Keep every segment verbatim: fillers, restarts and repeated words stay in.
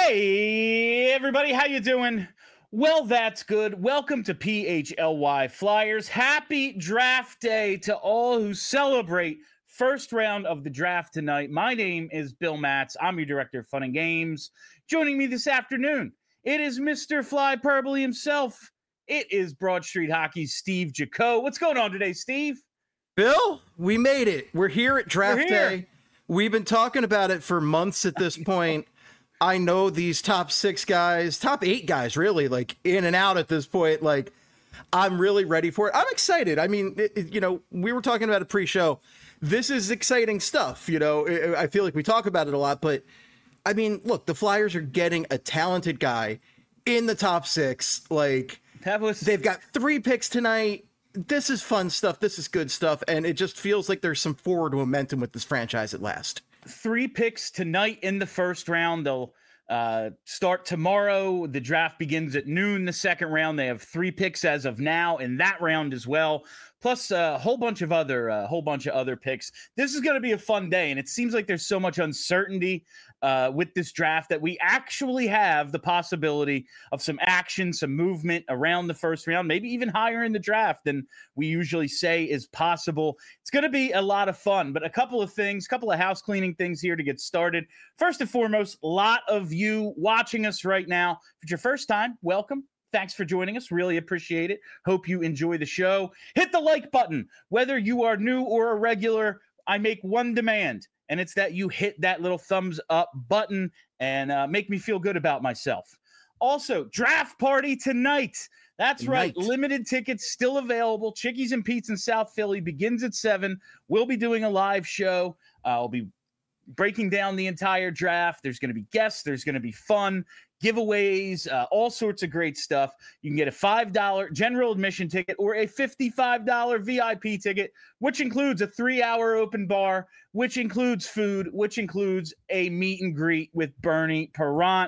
Hey, everybody, how you doing? Well, that's good. Welcome to P H L Y Flyers. Happy draft day to all who celebrate first round of the draft tonight. My name is Bill Matz. I'm your director of fun and games. Joining me this afternoon, it is Mister Flyperbole himself. It is Broad Street Hockey's Steve Jaco. What's going on today, Steve? Bill, we made it. We're here at draft We're here. day. We've been talking about it for months at this point. I know these top six guys, top eight guys, really, like in and out at this point. Like, I'm really ready for it. I'm excited. I mean, it, it, you know, we were talking about it pre-show. This is exciting stuff. You know, it, I feel like we talk about it a lot, but I mean, look, the Flyers are getting a talented guy in the top six. Like, That was they've got three picks tonight. This is fun stuff. This is good stuff. And it just feels like there's some forward momentum with this franchise at last. three picks tonight in the first round. They'll uh, start tomorrow. The draft begins at noon, the second round. They have three picks as of now in that round as well, plus a whole bunch of other a uh, whole bunch of other picks. This is going to be a fun day, and it seems like there's so much uncertainty uh, with this draft that we actually have the possibility of some action, some movement around the first round, maybe even higher in the draft than we usually say is possible. It's going to be a lot of fun, but a couple of things, a couple of house cleaning things here to get started. First and foremost, a lot of you watching us right now. If it's your first time, welcome. Thanks for joining us. Really appreciate it. Hope you enjoy the show. Hit the like button. Whether you are new or a regular, I make one demand, and it's that you hit that little thumbs up button and uh, make me feel good about myself. Also, draft party tonight. That's right. Night. Limited tickets still available. Chickies and Pete's in South Philly begins at seven. We'll be doing a live show. Uh, I'll be breaking down the entire draft. There's going to be guests. There's going to be fun, giveaways, uh, all sorts of great stuff. You can get a five dollars general admission ticket or a fifty-five dollars V I P ticket, which includes a three-hour open bar, which includes food, which includes a meet and greet with Bernie Parent.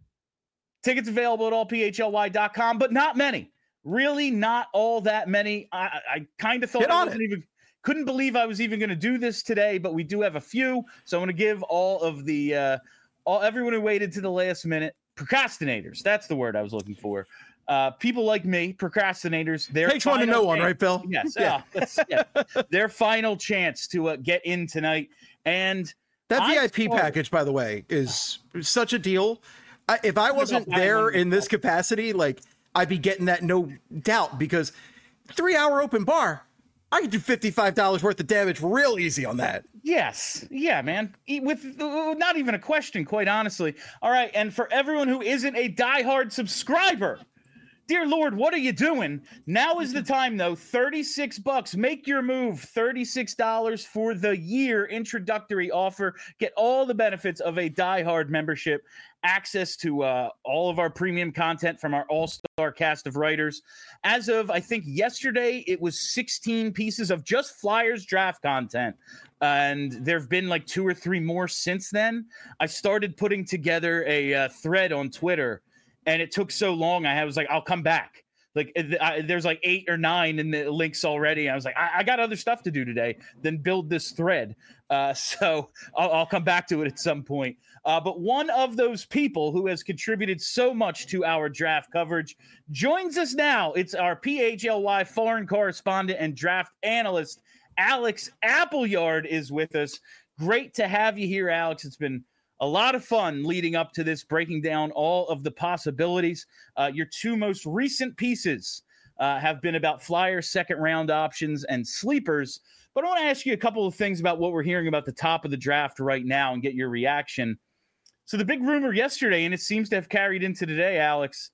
Tickets available at all P H L Y dot com, but not many. Really not all that many. I, I kind of thought Get I on wasn't it. even couldn't believe I was even going to do this today, but we do have a few. So I'm going to give all of the uh, all everyone who waited to the last minute, procrastinators. That's the word I was looking for. Uh, people like me, procrastinators. Their Takes one to final know one, chance- right, Bill? Yes. Yeah. Yeah. that's- yeah. Their final chance to uh, get in tonight. And That I V I P started- package, by the way, is such a deal. I, if I wasn't buying there one in this myself. capacity, like, I'd be getting that no doubt, because three-hour open bar, I could do fifty-five dollars worth of damage real easy on that. Yes. Yeah, man. E- With uh, not even a question, quite honestly. All right. And for everyone who isn't a diehard subscriber, dear Lord, what are you doing? Now is the time, though. thirty-six bucks. Make your move. thirty-six dollars for the year introductory offer. Get all the benefits of a diehard membership. Access to uh, all of our premium content from our all-star cast of writers. As of, I think, yesterday, it was sixteen pieces of just Flyers draft content. And there have been like two or three more since then. I started putting together a uh, thread on Twitter, and it took so long. I was like, I'll come back. Like I, there's like eight or nine in the links already. I was like, I, I got other stuff to do today than build this thread. Uh, so I'll, I'll come back to it at some point. Uh, but one of those people who has contributed so much to our draft coverage joins us now. It's our P H L Y foreign correspondent and draft analyst, Alex Appleyard is with us. Great to have you here, Alex. It's been a lot of fun leading up to this, breaking down all of the possibilities. Uh, your two most recent pieces uh, have been about Flyers second round options and sleepers. But I want to ask you a couple of things about what we're hearing about the top of the draft right now and get your reaction. So the big rumor yesterday, and it seems to have carried into today, Alex,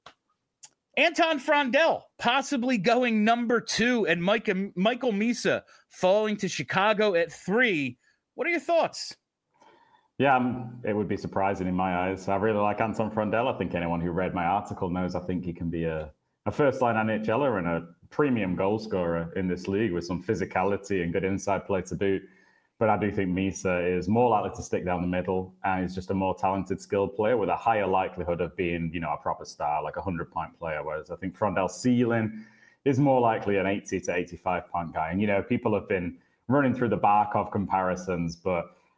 Anton Frondell possibly going number two and Mike, Michael Misa falling to Chicago at three. What are your thoughts? Yeah, um, it would be surprising in my eyes. I really like Anton Frondell. I think anyone who read my article knows I think he can be a, a first-line N H L er and a premium goal scorer in this league with some physicality and good inside play to boot. But I do think Misa is more likely to stick down the middle, and he's just a more talented, skilled player with a higher likelihood of being, you know, a proper star, like a hundred-point player. Whereas I think Frondell's ceiling is more likely an eighty to eighty-five point guy. And, you know, people have been running through the Barkov comparisons, but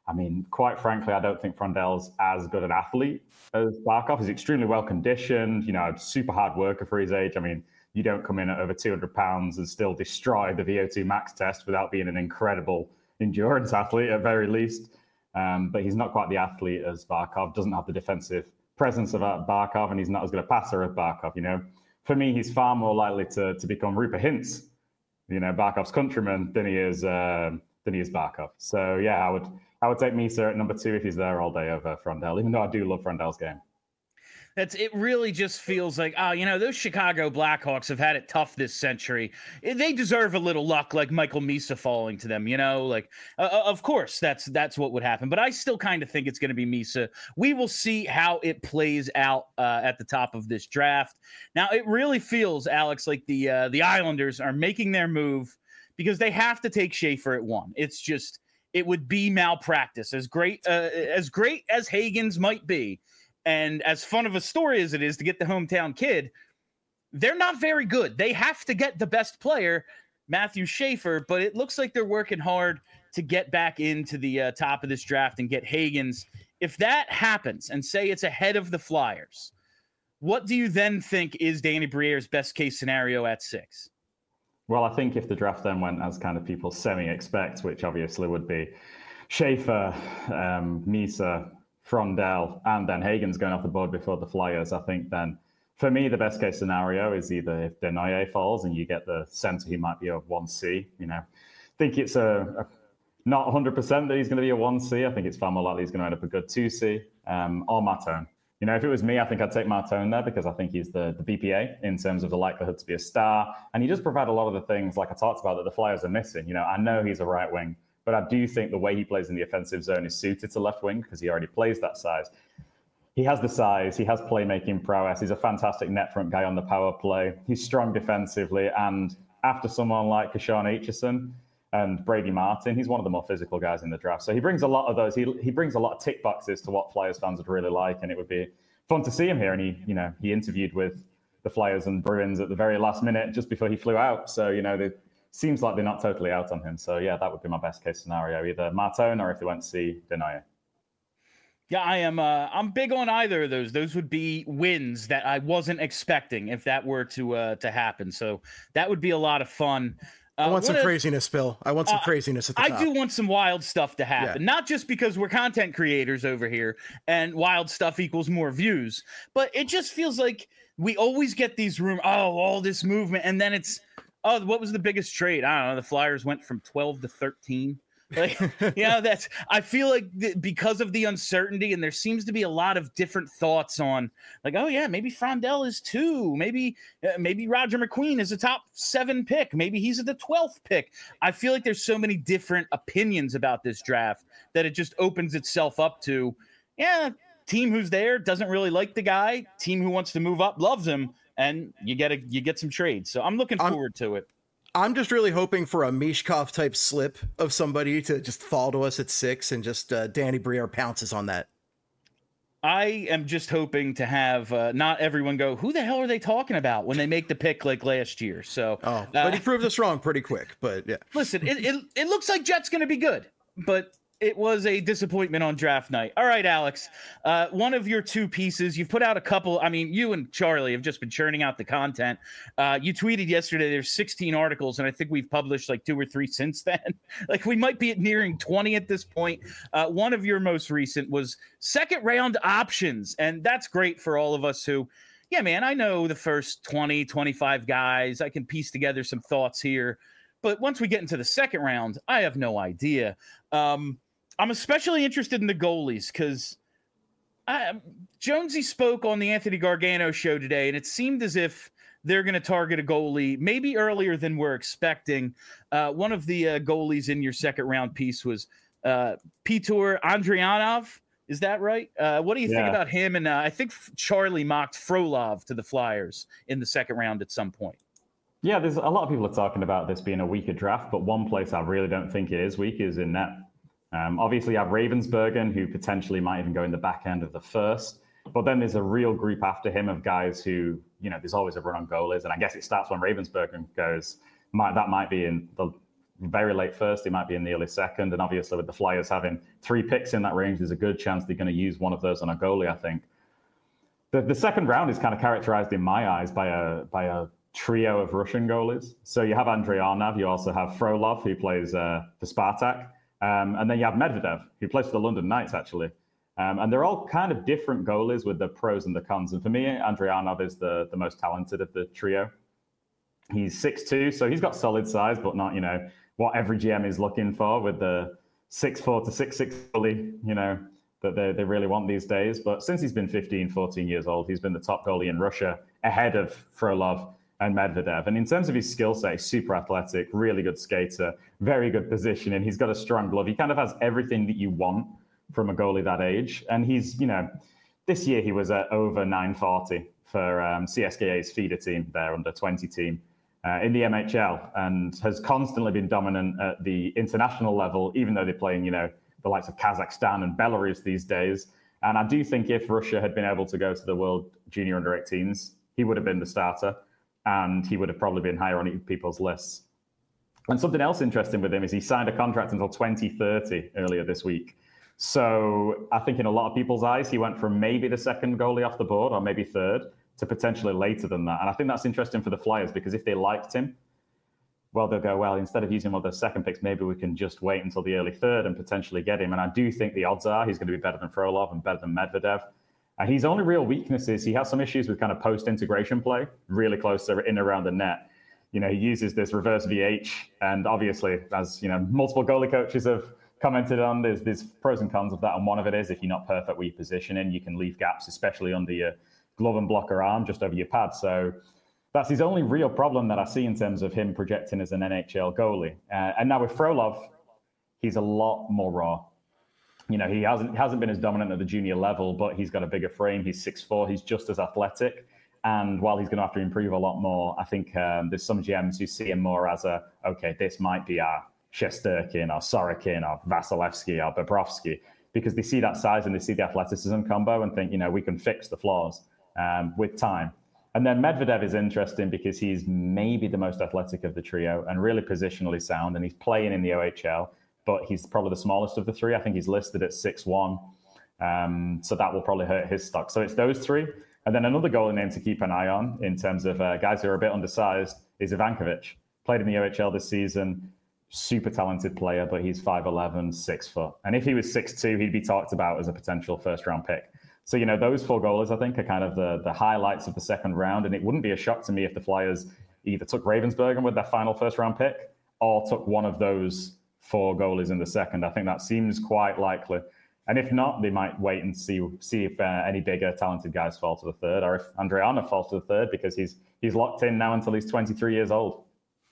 I mean, quite frankly, I don't think Frondel's as good an athlete as Barkov. He's extremely well conditioned, you know, super hard worker for his age. I mean, you don't come in at over two hundred pounds and still destroy the V O two max test without being an incredible endurance athlete at very least. Um, but he's not quite the athlete as Barkov, doesn't have the defensive presence of Barkov, and he's not as good a passer as Barkov, you know. For me, he's far more likely to, to become Rupert Hintz, you know, Barkov's countryman, than he is uh, than he is Barkov. So, yeah, I would... I would take Misa at number two if he's there all day over Frondel, even though I do love Frondel's game. That's it. Really just feels like, oh, you know, those Chicago Blackhawks have had it tough this century. They deserve a little luck, like Michael Misa falling to them. You know, like uh, of course that's that's what would happen. But I still kind of think it's going to be Misa. We will see how it plays out uh, at the top of this draft. Now, it really feels, Alex, like the uh, the Islanders are making their move because they have to take Schaefer at one. It's just. It would be malpractice. As great uh, as great as Hagens might be, and as fun of a story as it is to get the hometown kid, they're not very good. They have to get the best player, Matthew Schaefer, but it looks like they're working hard to get back into the uh, top of this draft and get Hagens. If that happens, and say it's ahead of the Flyers, what do you then think is Danny Briere's best case scenario at six? Well, I think if the draft then went as kind of people semi-expect, which obviously would be Schaefer, um, Misa, Frondel, and then Hagens going off the board before the Flyers, I think then, for me, the best case scenario is either if Desnoyers falls and you get the center who might be a one C, you know. I think it's a, a not one hundred percent that he's going to be a one C. I think it's far more likely he's going to end up a good two C, um, or Martone. You know, if it was me, I think I'd take Martone there because I think he's the, the B P A in terms of the likelihood to be a star. And he does provide a lot of the things, like I talked about, that the Flyers are missing. You know, I know he's a right wing, but I do think the way he plays in the offensive zone is suited to left wing because he already plays that size. He has the size, he has playmaking prowess, he's a fantastic net front guy on the power play. He's strong defensively, and after someone like Kashawn Aitchison and Brady Martin, he's one of the more physical guys in the draft. So he brings a lot of those. He he brings a lot of tick boxes to what Flyers fans would really like, and it would be fun to see him here. And he, you know, he interviewed with the Flyers and Bruins at the very last minute just before he flew out. So, you know, it seems like they're not totally out on him. So, yeah, that would be my best case scenario, either Martone or if they went to see Desnoyers. Yeah, I am. Uh, I'm big on either of those. Those would be wins that I wasn't expecting if that were to uh, to happen. So that would be a lot of fun. Uh, I want some a, craziness, Bill. I want some uh, craziness at the I top. do want some wild stuff to happen, yeah. Not just because we're content creators over here and wild stuff equals more views, but it just feels like we always get these rumors, oh, all this movement, and then it's, oh, what was the biggest trade? I don't know. The Flyers went from twelve to thirteen. Like, you know, that's, I feel like th- because of the uncertainty, and there seems to be a lot of different thoughts on, like, oh yeah, maybe Frondel is two, maybe uh, maybe Roger McQueen is a top seven pick, maybe he's at the twelfth pick. I feel like there's so many different opinions about this draft that it just opens itself up to, yeah, team who's there doesn't really like the guy, team who wants to move up loves him, and you get a you get some trades. So I'm looking I'm- forward to it. I'm just really hoping for a Mishkov type slip of somebody to just fall to us at six, and just uh, Danny Briere pounces on that. I am just hoping to have uh, not everyone go, who the hell are they talking about when they make the pick like last year? So, oh, but uh, he proved us wrong pretty quick. But yeah, listen, it it, it looks like Jet's going to be good, but it was a disappointment on draft night. All right, Alex, uh, one of your two pieces, you've put out a couple. I mean, you and Charlie have just been churning out the content. Uh, you tweeted yesterday there's sixteen articles, and I think we've published like two or three since then. Like we might be nearing twenty at this point. Uh, one of your most recent was second round options, and that's great for all of us who, yeah, man, I know the first twenty, twenty-five guys. I can piece together some thoughts here. But once we get into the second round, I have no idea. Um, I'm especially interested in the goalies because Jonesy spoke on the Anthony Gargano show today, and it seemed as if they're going to target a goalie maybe earlier than we're expecting. Uh, one of the uh, goalies in your second round piece was uh, Peter Andrianov. Is that right? Uh, what do you yeah. think about him? And uh, I think Charlie mocked Frolov to the Flyers in the second round at some point. Yeah, there's a lot of people are talking about this being a weaker draft, but one place I really don't think it is weak is in net. Um, obviously, you have Ravensburgen, who potentially might even go in the back end of the first. But then there's a real group after him of guys who, you know, there's always a run on goalies. And I guess it starts when Ravensburgen goes. Might, that might be in the very late first, he might be in the early second. And obviously with the Flyers having three picks in that range, there's a good chance they're going to use one of those on a goalie, I think. The, the second round is kind of characterized in my eyes by a by a trio of Russian goalies. So you have Andrei Arnav, you also have Frolov, who plays uh, for Spartak, um, and then you have Medvedev, who plays for the London Knights, actually. Um, and they're all kind of different goalies with the pros and the cons. And for me, Andrei Arnav is the, the most talented of the trio. He's six two, so he's got solid size, but not, you know, what every G M is looking for with the six four to six six goalie, you know, that they, they really want these days. But since he's been fifteen, fourteen years old, he's been the top goalie in Russia, ahead of Frolov and Medvedev. And in terms of his skill set, he's super athletic, really good skater, very good positioning. He's got a strong glove. He kind of has everything that you want from a goalie that age. And he's, you know, this year he was at over nine forty for um, C S K A's feeder team, their under twenty team uh, in the M H L, and has constantly been dominant at the international level, even though they're playing, you know, the likes of Kazakhstan and Belarus these days. And I do think if Russia had been able to go to the World Junior under eighteens, he would have been the starter, and he would have probably been higher on people's lists. And something else interesting with him is he signed a contract until twenty thirty earlier this week. So I think in a lot of people's eyes, he went from maybe the second goalie off the board, or maybe third, to potentially later than that. And I think that's interesting for the Flyers, because if they liked him, well, they'll go, well, instead of using one of those second picks, maybe we can just wait until the early third and potentially get him. And I do think the odds are he's going to be better than Frolov and better than Medvedev. And his only real weakness is he has some issues with kind of post-integration play, really close to in around the net. You know, he uses this reverse V H, and obviously, as you know, multiple goalie coaches have commented on, there's there's pros and cons of that. And one of it is if you're not perfect with your positioning, you can leave gaps, especially under your glove and blocker arm, just over your pad. So that's his only real problem that I see in terms of him projecting as an N H L goalie. Uh, and now with Frolov, he's a lot more raw. You know, he hasn't hasn't been as dominant at the junior level, but he's got a bigger frame. He's six four. He's just as athletic. And while he's going to have to improve a lot more, I think um, there's some G Ms who see him more as a, okay, this might be our Shesterkin or Sorokin or Vasilevsky or Bobrovsky, because they see that size and they see the athleticism combo and think, you know, we can fix the flaws um, with time. And then Medvedev is interesting because he's maybe the most athletic of the trio and really positionally sound, and he's playing in the O H L, but he's probably the smallest of the three. I think he's listed at six one, um, so that will probably hurt his stock. So it's those three. And then another goalie name to keep an eye on in terms of uh, guys who are a bit undersized is Ivankovic. Played in the O H L this season, super talented player, but he's five eleven, six foot. And if he was six two, he'd be talked about as a potential first-round pick. So, you know, those four goalies, I think, are kind of the, the highlights of the second round. And it wouldn't be a shock to me if the Flyers either took Ravensburger with their final first-round pick or took one of those four goalies in the second. I think that seems quite likely. And if not, they might wait and see see if uh, any bigger talented guys fall to the third, or if Andrei Arnav falls to the third, because he's he's locked in now until he's twenty-three years old.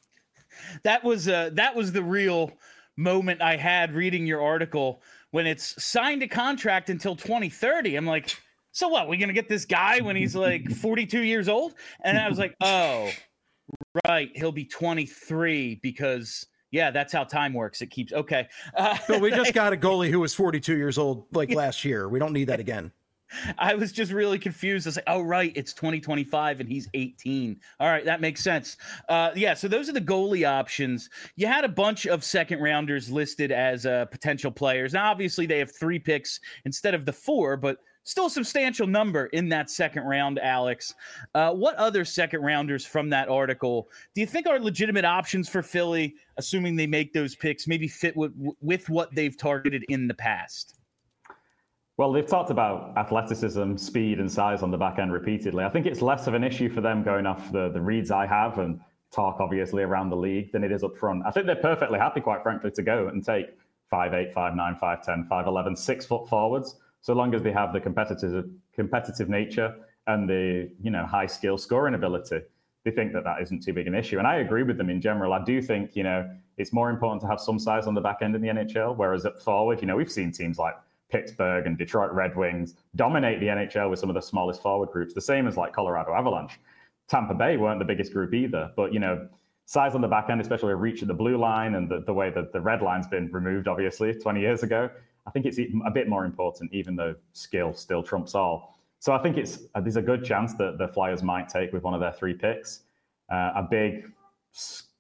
That was uh, that was the real moment I had reading your article when it's signed a contract until twenty thirty. I'm like, so what? We're gonna get this guy when he's like forty-two years old? And I was like, oh, right, he'll be twenty-three because. Yeah, that's how time works. It keeps okay. Uh, but we just got a goalie who was forty-two years old like last year. We don't need that again. I was just really confused. I was like, oh, right, it's twenty twenty-five and he's eighteen. All right, that makes sense. Uh, yeah, so those are the goalie options. You had a bunch of second rounders listed as uh, potential players. Now, obviously, they have three picks instead of the four, but still a substantial number in that second round, Alex. Uh, what other second rounders from that article do you think are legitimate options for Philly, assuming they make those picks, maybe fit with, with what they've targeted in the past? Well, they've talked about athleticism, speed, and size on the back end repeatedly. I think it's less of an issue for them going off the, the reads I have and talk, obviously, around the league than it is up front. I think they're perfectly happy, quite frankly, to go and take five eight, five nine, five ten, five eleven, six-foot forwards, so long as they have the competitive competitive nature and the, you know, high skill scoring ability. They think that that isn't too big an issue. And I agree with them in general. I do think, you know, it's more important to have some size on the back end in the N H L, whereas at forward, you know, we've seen teams like Pittsburgh and Detroit Red Wings dominate the N H L with some of the smallest forward groups, the same as like Colorado Avalanche. Tampa Bay weren't the biggest group either, but, you know, size on the back end, especially a reach at the blue line and the, the way that the red line's been removed, obviously, twenty years ago, I think it's a bit more important, even though skill still trumps all. So I think it's uh, there's a good chance that the Flyers might take with one of their three picks uh, a big,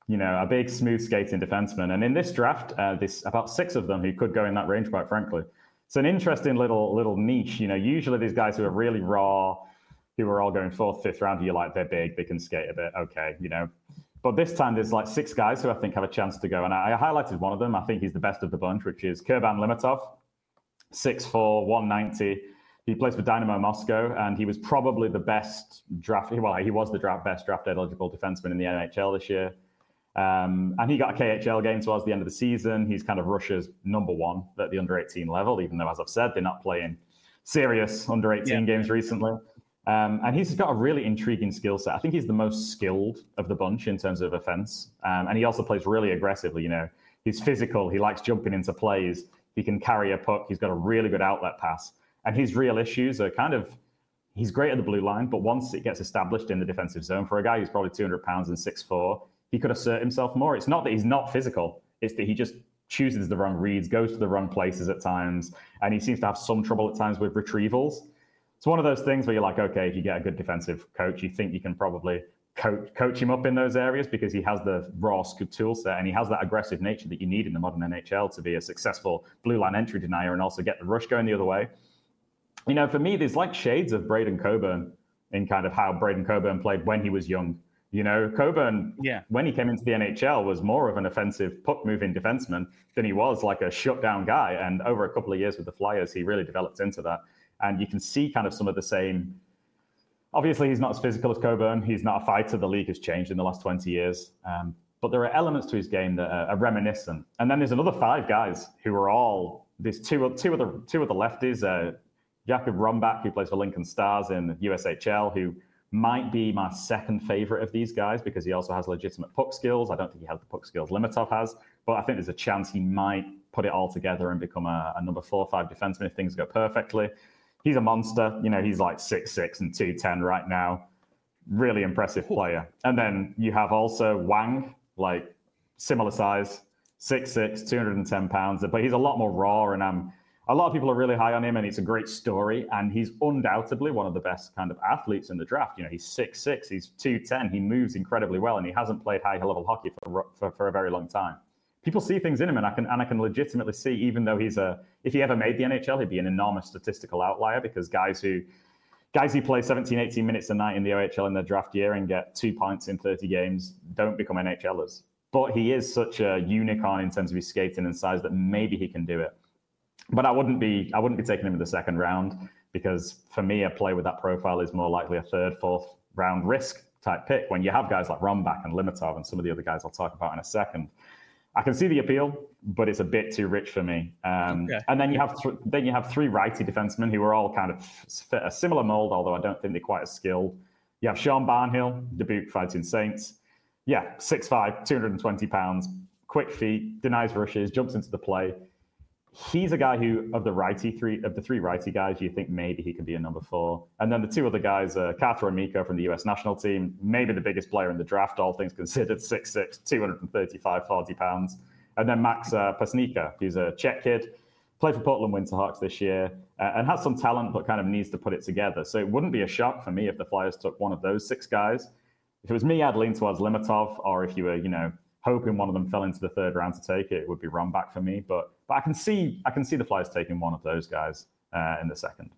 you know, a big, smooth skating defenseman. And in this draft, uh, there's about six of them who could go in that range, quite frankly. It's an interesting little little niche. You know, usually these guys who are really raw, who are all going fourth, fifth round, you're like, they're big, they can skate a bit, okay, you know. But this time there's like six guys who I think have a chance to go. And I, I highlighted one of them. I think he's the best of the bunch, which is Kurban Limitov, six four, one ninety. He plays for Dynamo Moscow, and he was probably the best draft. Well, he was the draft best draft eligible defenseman in the N H L this year. Um, and he got a K H L game towards the end of the season. He's kind of Russia's number one at the under eighteen level, even though, as I've said, they're not playing serious under eighteen yeah. games recently. Um, and he's got a really intriguing skill set. I think he's the most skilled of the bunch in terms of offense. Um, and he also plays really aggressively. You know, he's physical. He likes jumping into plays. He can carry a puck. He's got a really good outlet pass. And his real issues are kind of, he's great at the blue line, but once it gets established in the defensive zone, for a guy who's probably two hundred pounds and six four, he could assert himself more. It's not that he's not physical. It's that he just chooses the wrong reads, goes to the wrong places at times, and he seems to have some trouble at times with retrievals. It's one of those things where you're like, okay, if you get a good defensive coach, you think you can probably coach, coach him up in those areas because he has the raw tool set and he has that aggressive nature that you need in the modern N H L to be a successful blue line entry denier and also get the rush going the other way. You know, for me, there's like shades of Braden Coburn in kind of how Braden Coburn played when he was young. You know, Coburn, yeah. when he came into the N H L, was more of an offensive puck-moving defenseman than he was like a shutdown guy. And over a couple of years with the Flyers, he really developed into that. And you can see kind of some of the same. Obviously, he's not as physical as Coburn. He's not a fighter. The league has changed in the last twenty years. Um, but there are elements to his game that are, are reminiscent. And then there's another five guys who are all, there's two, two, of, the, two of the lefties, uh, Jakub Rombak, who plays for Lincoln Stars in U S H L, who might be my second favorite of these guys because he also has legitimate puck skills. I don't think he has the puck skills Limitov has, but I think there's a chance he might put it all together and become a, a number four or five defenseman if things go perfectly. He's a monster. You know, he's like six six and two ten right now. Really impressive player. And then you have also Wang, like similar size, six six, two hundred ten pounds, but he's a lot more raw, and I'm a lot of people are really high on him, and it's a great story. And he's undoubtedly one of the best kind of athletes in the draft. You know, he's six six, he's two ten, he moves incredibly well, and he hasn't played high-level hockey for, for for a very long time. People see things in him, and I can and I can legitimately see, even though he's a, if he ever made the N H L, he'd be an enormous statistical outlier because guys who guys who play seventeen, eighteen minutes a night in the O H L in their draft year and get two points in thirty games don't become N H Lers. But he is such a unicorn in terms of his skating and size that maybe he can do it. But I wouldn't be I wouldn't be taking him in the second round because for me, a play with that profile is more likely a third, fourth round risk type pick when you have guys like Rombak and Limitov and some of the other guys I'll talk about in a second. I can see the appeal, but it's a bit too rich for me. Um, okay. And then you have th- then you have three righty defensemen who are all kind of fit a similar mold, although I don't think they're quite as skilled. You have Sean Barnhill, Dubuque Fighting Saints. Yeah, six five, two hundred twenty pounds, quick feet, denies rushes, jumps into the play. He's a guy who, of the righty three, of the three righty guys, you think maybe he could be a number four. And then the two other guys, uh, Carter Amico from the U S national team, maybe the biggest player in the draft, all things considered, six six, two hundred thirty-five, forty pounds. And then Max uh, Pasnica, who's a Czech kid, played for Portland Winterhawks this year, uh, and has some talent, but kind of needs to put it together. So it wouldn't be a shock for me if the Flyers took one of those six guys. If it was me, I'd lean towards Limitov, or if you were, you know, hoping one of them fell into the third round to take it, it would be Rombak for me. But but I can see I can see the Flyers taking one of those guys uh, in the second.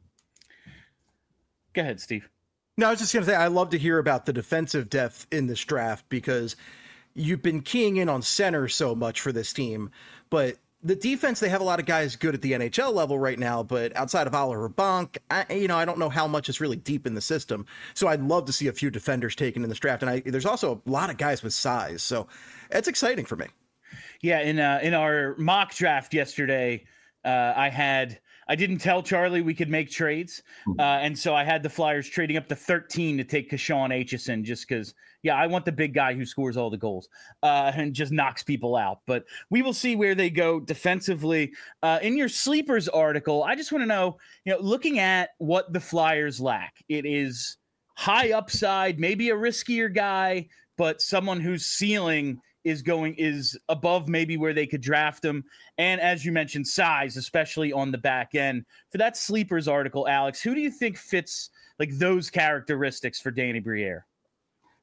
Go ahead, Steve. No, I was just going to say, I love to hear about the defensive depth in this draft because you've been keying in on center so much for this team. But the defense, they have a lot of guys good at the N H L level right now, but outside of Oliver Bonk, I, you know, I don't know how much is really deep in the system. So I'd love to see a few defenders taken in this draft. And I, there's also a lot of guys with size. So it's exciting for me. Yeah, in uh, in our mock draft yesterday, uh, I had I didn't tell Charlie we could make trades, uh, and so I had the Flyers trading up to thirteen to take Kashawn Aitchison just because, yeah, I want the big guy who scores all the goals uh, and just knocks people out. But we will see where they go defensively. Uh, in your sleepers article, I just want to know, you know, looking at what the Flyers lack, it is high upside, maybe a riskier guy, but someone whose ceiling is going is above maybe where they could draft him. And as you mentioned, size, especially on the back end. For that sleepers article, Alex, who do you think fits like those characteristics for Danny Briere?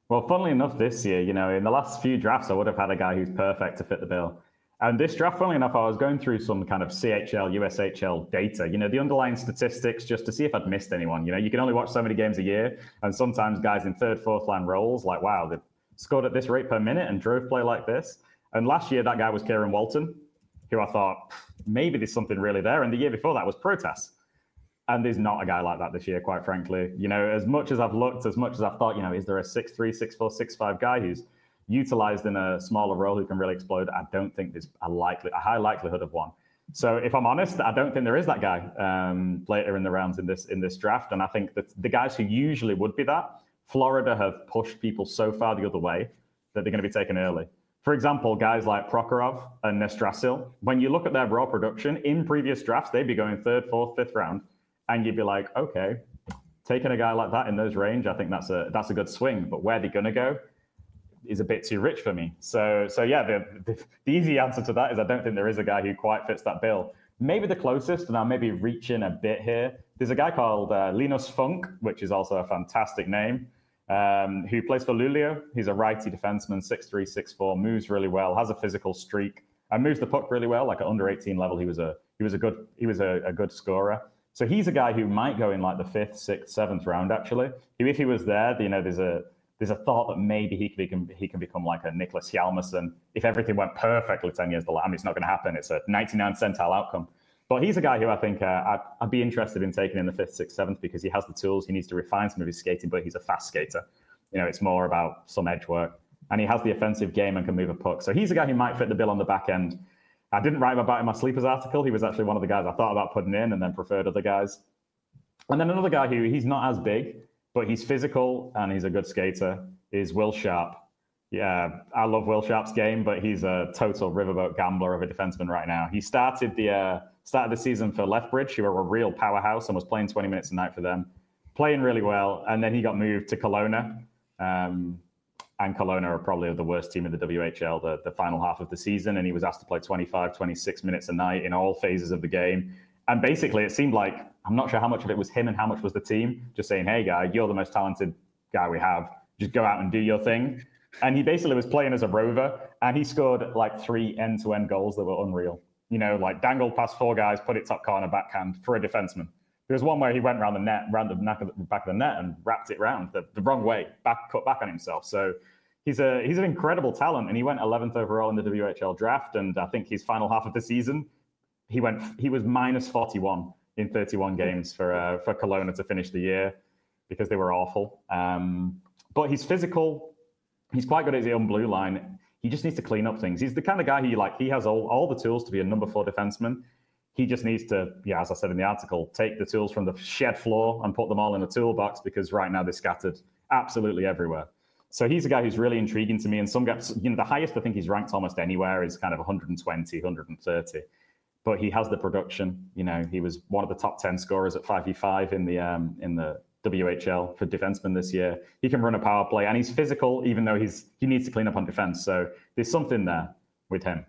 Well, funnily enough, this year, you know, in the last few drafts, I would have had a guy who's perfect to fit the bill. And this draft, funnily enough, I was going through some kind of C H L, U S H L data, you know, the underlying statistics, just to see if I'd missed anyone. You know, you can only watch so many games a year. And sometimes guys in third, fourth line roles, like, wow, they've scored at this rate per minute and drove play like this. And last year, that guy was Kieran Walton, who I thought, maybe there's something really there. And the year before that was Protas. And there's not a guy like that this year, quite frankly. You know, as much as I've looked, as much as I've thought, you know, is there a six three, six four, six five guy who's utilized in a smaller role who can really explode? I don't think there's a likely, a high likelihood of one. So if I'm honest, I don't think there is that guy um, later in the rounds in this in this draft. And I think that the guys who usually would be that, Florida have pushed people so far the other way that they're going to be taken early. For example, guys like Prokhorov and Nestrasil, when you look at their raw production in previous drafts, they'd be going third, fourth, fifth round. And you'd be like, okay, taking a guy like that in those range, I think that's a that's a good swing. But where they're going to go is a bit too rich for me. So, so yeah, the, the, the easy answer to that is I don't think there is a guy who quite fits that bill. Maybe the closest, and I'll maybe reach in a bit here, there's a guy called uh, Linus Funk, which is also a fantastic name, um, who plays for Luleå. He's a righty defenseman, six three, six four, moves really well, has a physical streak, and moves the puck really well. Like at under eighteen level, he was a he was a good he was a, a good scorer. So he's a guy who might go in like the fifth, sixth, seventh round. Actually, if he was there, you know, there's a there's a thought that maybe he can he can become like a Nicholas Hjalmarsson if everything went perfectly ten years to I mean, it's not going to happen. It's a ninety-nine percentile outcome. But he's a guy who I think uh, I'd, I'd be interested in taking in the fifth, sixth, seventh because he has the tools. He needs to refine some of his skating, but he's a fast skater. You know, it's more about some edge work, and he has the offensive game and can move a puck. So he's a guy who might fit the bill on the back end. I didn't write him about in my sleepers article. He was actually one of the guys I thought about putting in and then preferred other guys. And then another guy who he's not as big, but he's physical and he's a good skater is Will Sharp. Yeah, I love Will Sharp's game, but he's a total riverboat gambler of a defenseman right now. He started the uh, started the season for Lethbridge, who were a real powerhouse and was playing twenty minutes a night for them, playing really well. And then he got moved to Kelowna. Um, and Kelowna are probably the worst team in the W H L the, the final half of the season. And he was asked to play twenty-five, twenty-six minutes a night in all phases of the game. And basically, it seemed like, I'm not sure how much of it was him and how much was the team, just saying, hey, guy, you're the most talented guy we have. Just go out and do your thing. And he basically was playing as a rover, and he scored like three end-to-end goals that were unreal. You know, like dangled past four guys, put it top corner, backhand for a defenseman. There was one where he went around the net, around the back of the, back of the net and wrapped it round the, the wrong way, back cut back on himself. So he's a he's an incredible talent, and he went eleventh overall in the W H L draft. And I think his final half of the season, he went he was minus forty-one in thirty-one games for uh, for Kelowna to finish the year because they were awful. Um, but he's physical. He's quite good at his own blue line. He just needs to clean up things. He's the kind of guy who, like, he has all, all the tools to be a number four defenseman. He just needs to, yeah, as I said in the article, take the tools from the shed floor and put them all in a toolbox because right now they're scattered absolutely everywhere. So he's a guy who's really intriguing to me. And some guys, you know, the highest I think he's ranked almost anywhere is kind of one twenty, one thirty. But he has the production. You know, he was one of the top ten scorers at five v five in the um, in the W H L for defensemen this year. He can run a power play, and he's physical, even though he's he needs to clean up on defense. So there's something there with him.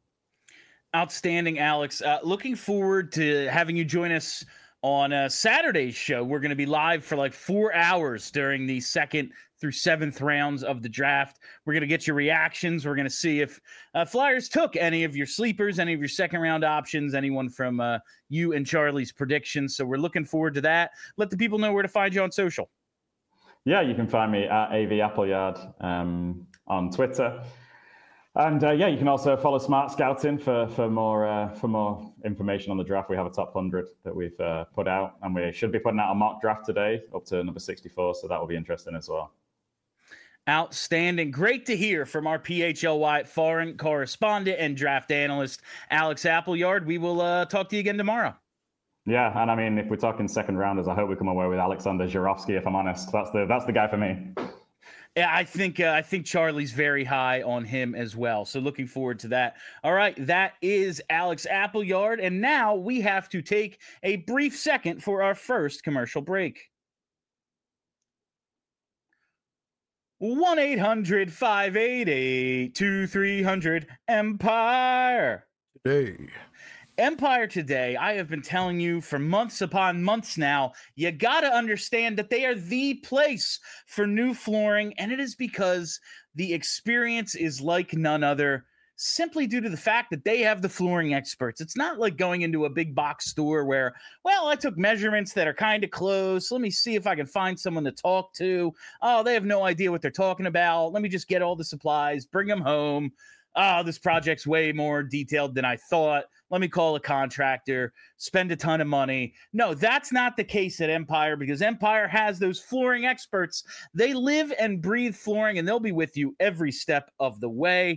Outstanding, Alex. Uh, looking forward to having you join us on uh, Saturday's show. We're going to be live for like four hours during the second through seventh rounds of the draft. We're going to get your reactions. We're going to see if uh, Flyers took any of your sleepers, any of your second round options, anyone from uh, you and Charlie's predictions. So we're looking forward to that. Let the people know where to find you on social. Yeah, you can find me at A V Appleyard um, on Twitter. And uh, yeah, you can also follow Smart Scouting for for more uh, for more information on the draft. We have a top one hundred that we've uh, put out, and we should be putting out a mock draft today up to number sixty-four. So that will be interesting as well. Outstanding. Great to hear from our P H L Y foreign correspondent and draft analyst, Alex Appleyard. We will uh, talk to you again tomorrow. Yeah, and I mean, if we're talking second rounders, I hope we come away with Alexander Zhuravsky, if I'm honest. That's the that's the guy for me. Yeah, I think uh, I think Charlie's very high on him as well. So looking forward to that. All right, that is Alex Appleyard. And now we have to take a brief second for our first commercial break. one eight hundred, five eight eight, two three zero zero Empire. Today. Empire Today, I have been telling you for months upon months now, you got to understand that they are the place for new flooring, and it is because the experience is like none other, simply due to the fact that they have the flooring experts. It's not like going into a big box store where, well, I took measurements that are kind of close. Let me see if I can find someone to talk to. Oh, they have no idea what they're talking about. Let me just get all the supplies, bring them home. Oh, this project's way more detailed than I thought. Let me call a contractor, spend a ton of money. No, that's not the case at Empire, because Empire has those flooring experts. They live and breathe flooring, and they'll be with you every step of the way.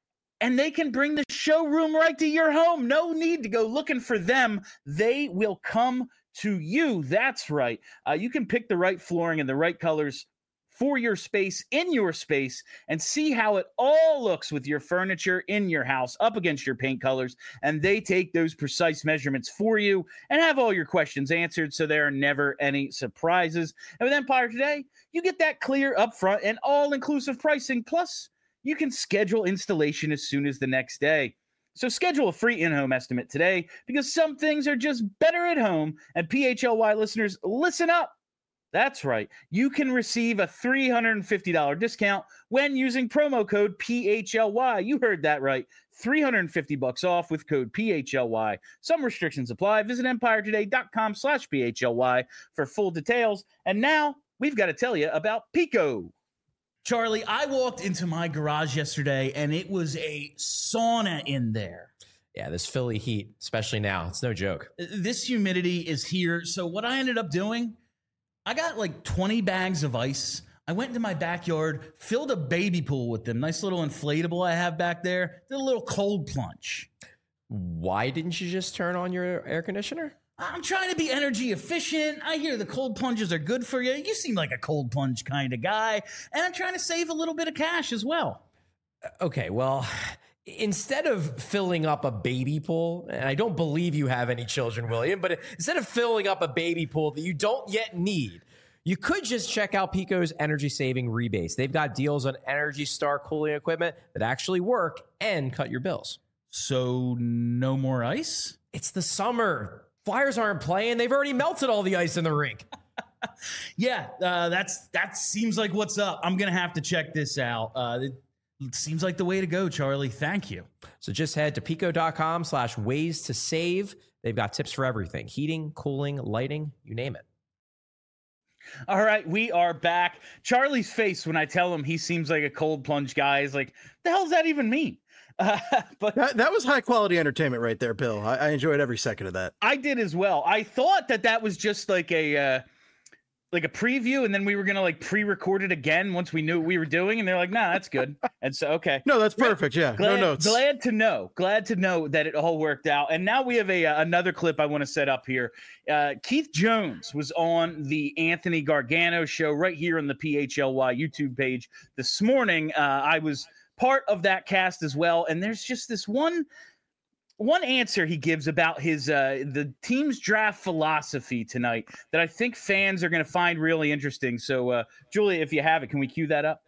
And they can bring the showroom right to your home. No need to go looking for them. They will come to you. That's right. Uh, you can pick the right flooring and the right colors for your space, in your space, and see how it all looks with your furniture in your house up against your paint colors. And they take those precise measurements for you and have all your questions answered, so there are never any surprises. And with Empire Today, you get that clear, upfront, and all-inclusive pricing. Plus, you can schedule installation as soon as the next day. So schedule a free in-home estimate today, because some things are just better at home. And P H L Y listeners, listen up. That's right. You can receive a three hundred fifty dollars discount when using promo code P H L Y. You heard that right. three hundred fifty bucks off with code P H L Y. Some restrictions apply. Visit empiretoday.com slash PHLY for full details. And now we've got to tell you about Pico. Charlie, I walked into my garage yesterday and it was a sauna in there. Yeah, this Philly heat, especially now, it's no joke. This humidity is here. So what I ended up doing, I got like twenty bags of ice. I went into my backyard, filled a baby pool with them. Nice little inflatable I have back there. Did a little cold plunge. Why didn't you just turn on your air conditioner? I'm trying to be energy efficient. I hear the cold plunges are good for you. You seem like a cold plunge kind of guy. And I'm trying to save a little bit of cash as well. Okay, well, instead of filling up a baby pool, and I don't believe you have any children, William, but instead of filling up a baby pool that you don't yet need, you could just check out Pico's energy saving rebates. They've got deals on Energy Star cooling equipment that actually work and cut your bills. So no more ice? It's the summer. Flyers aren't playing. They've already melted all the ice in the rink. yeah, uh, that's that seems like what's up. I'm going to have to check this out. Uh, it, it seems like the way to go, Charlie. Thank you. So just head to pico.com slash ways to save. They've got tips for everything. Heating, cooling, lighting, you name it. All right, we are back. Charlie's face when I tell him he seems like a cold plunge guy is like, the hell does that even mean? Uh, but that, that was high quality entertainment right there, Bill. I, I enjoyed every second of that. I did as well. I thought that that was just like a uh, like a preview, and then we were gonna like pre-record it again once we knew what we were doing. And they're like, "Nah, that's good." And so, okay, no, that's perfect. Yeah, glad, no notes. Glad to know. Glad to know that it all worked out. And now we have a uh, another clip I want to set up here. Uh, Keith Jones was on the Anthony Gargano show right here on the P H L Y YouTube page this morning. Uh, I was part of that cast as well, and there's just this one one answer he gives about his uh the team's draft philosophy tonight that I think fans are going to find really interesting. So uh Julia, if you have it, can we cue that up?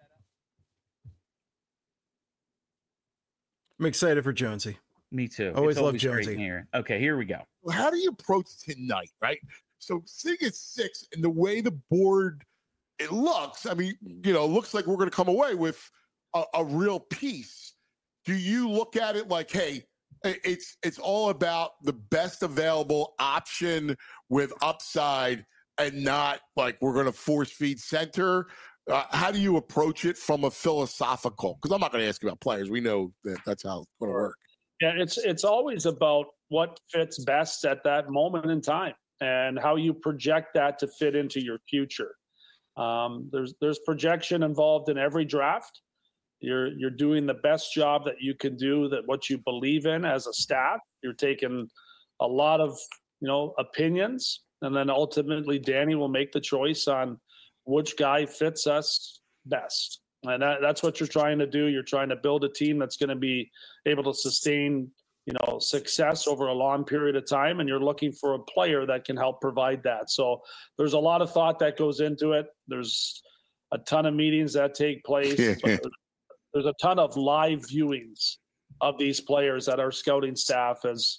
I'm excited for Jonesy. Me too. Always It's love always great Jonesy. here. Okay, here we go. How do you approach tonight, right? So sitting at six, and the way the board it looks, I mean, you know, looks like we're going to come away with A, a real piece. Do you look at it like, hey, it's it's all about the best available option with upside, and not like we're going to force feed center? Uh, how do you approach it from a philosophical? Because I'm not going to ask you about players. We know that that's how it's going to work. Yeah, it's it's always about what fits best at that moment in time and how you project that to fit into your future. Um, there's there's projection involved in every draft. You're you're doing the best job that you can do, that what you believe in as a staff. You're taking a lot of, you know, opinions, and then ultimately Danny will make the choice on which guy fits us best. And that, that's what you're trying to do. You're trying to build a team that's going to be able to sustain, you know, success over a long period of time, and you're looking for a player that can help provide that. So there's a lot of thought that goes into it. There's a ton of meetings that take place. There's a ton of live viewings of these players that our scouting staff has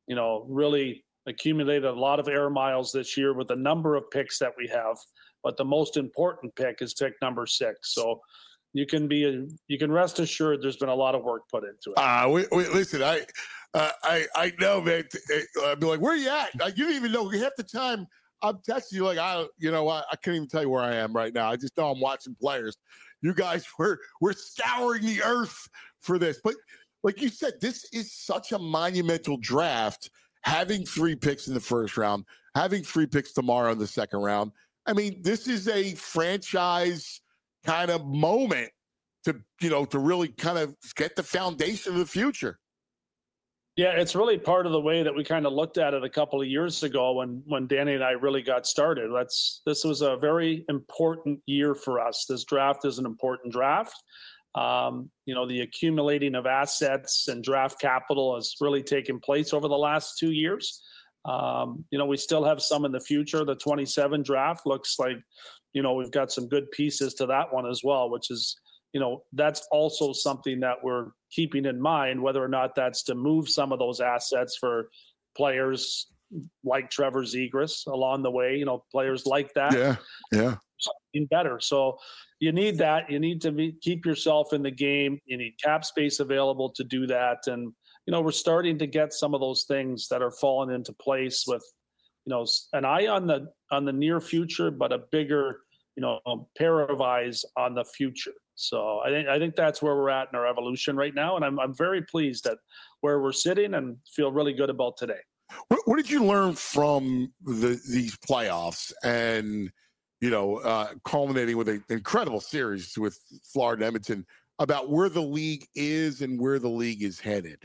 you know, really accumulated a lot of air miles this year with the number of picks that we have. But the most important pick is pick number six. So you can be, you can rest assured there's been a lot of work put into it. Uh, wait, wait, listen, I, uh, I, I know, man. I'd be like, where are you at? Like, you don't even know. Half the time I'm texting you like, I, you know, I, I can't even tell you where I am right now. I just know I'm watching players. You guys were, we're scouring the earth for this. But like you said, this is such a monumental draft. Having three picks in the first round, having three picks tomorrow in the second round. I mean, this is a franchise kind of moment to, you know, to really kind of get the foundation of the future. Yeah, it's really part of the way that we kind of looked at it a couple of years ago when when Danny and I really got started. That's this was a very important year for us. This draft is an important draft. Um, you know, the accumulating of assets and draft capital has really taken place over the last two years. Um, you know, we still have some in the future. The twenty-seven draft looks like, you know, we've got some good pieces to that one as well, which is, you know, that's also something that we're keeping in mind, whether or not that's to move some of those assets for players like Trevor Zegras along the way, you know, players like that. Yeah, yeah. Something better. So you need that. You need to be, keep yourself in the game. You need cap space available to do that. And, you know, we're starting to get some of those things that are falling into place with, you know, an eye on the on the near future, but a bigger, you know, pair of eyes on the future. So I think I think that's where we're at in our evolution right now, and I'm I'm very pleased at where we're sitting and feel really good about today. What, what did you learn from the these playoffs and, you know, uh, culminating with an incredible series with Florida and Edmonton about where the league is and where the league is headed?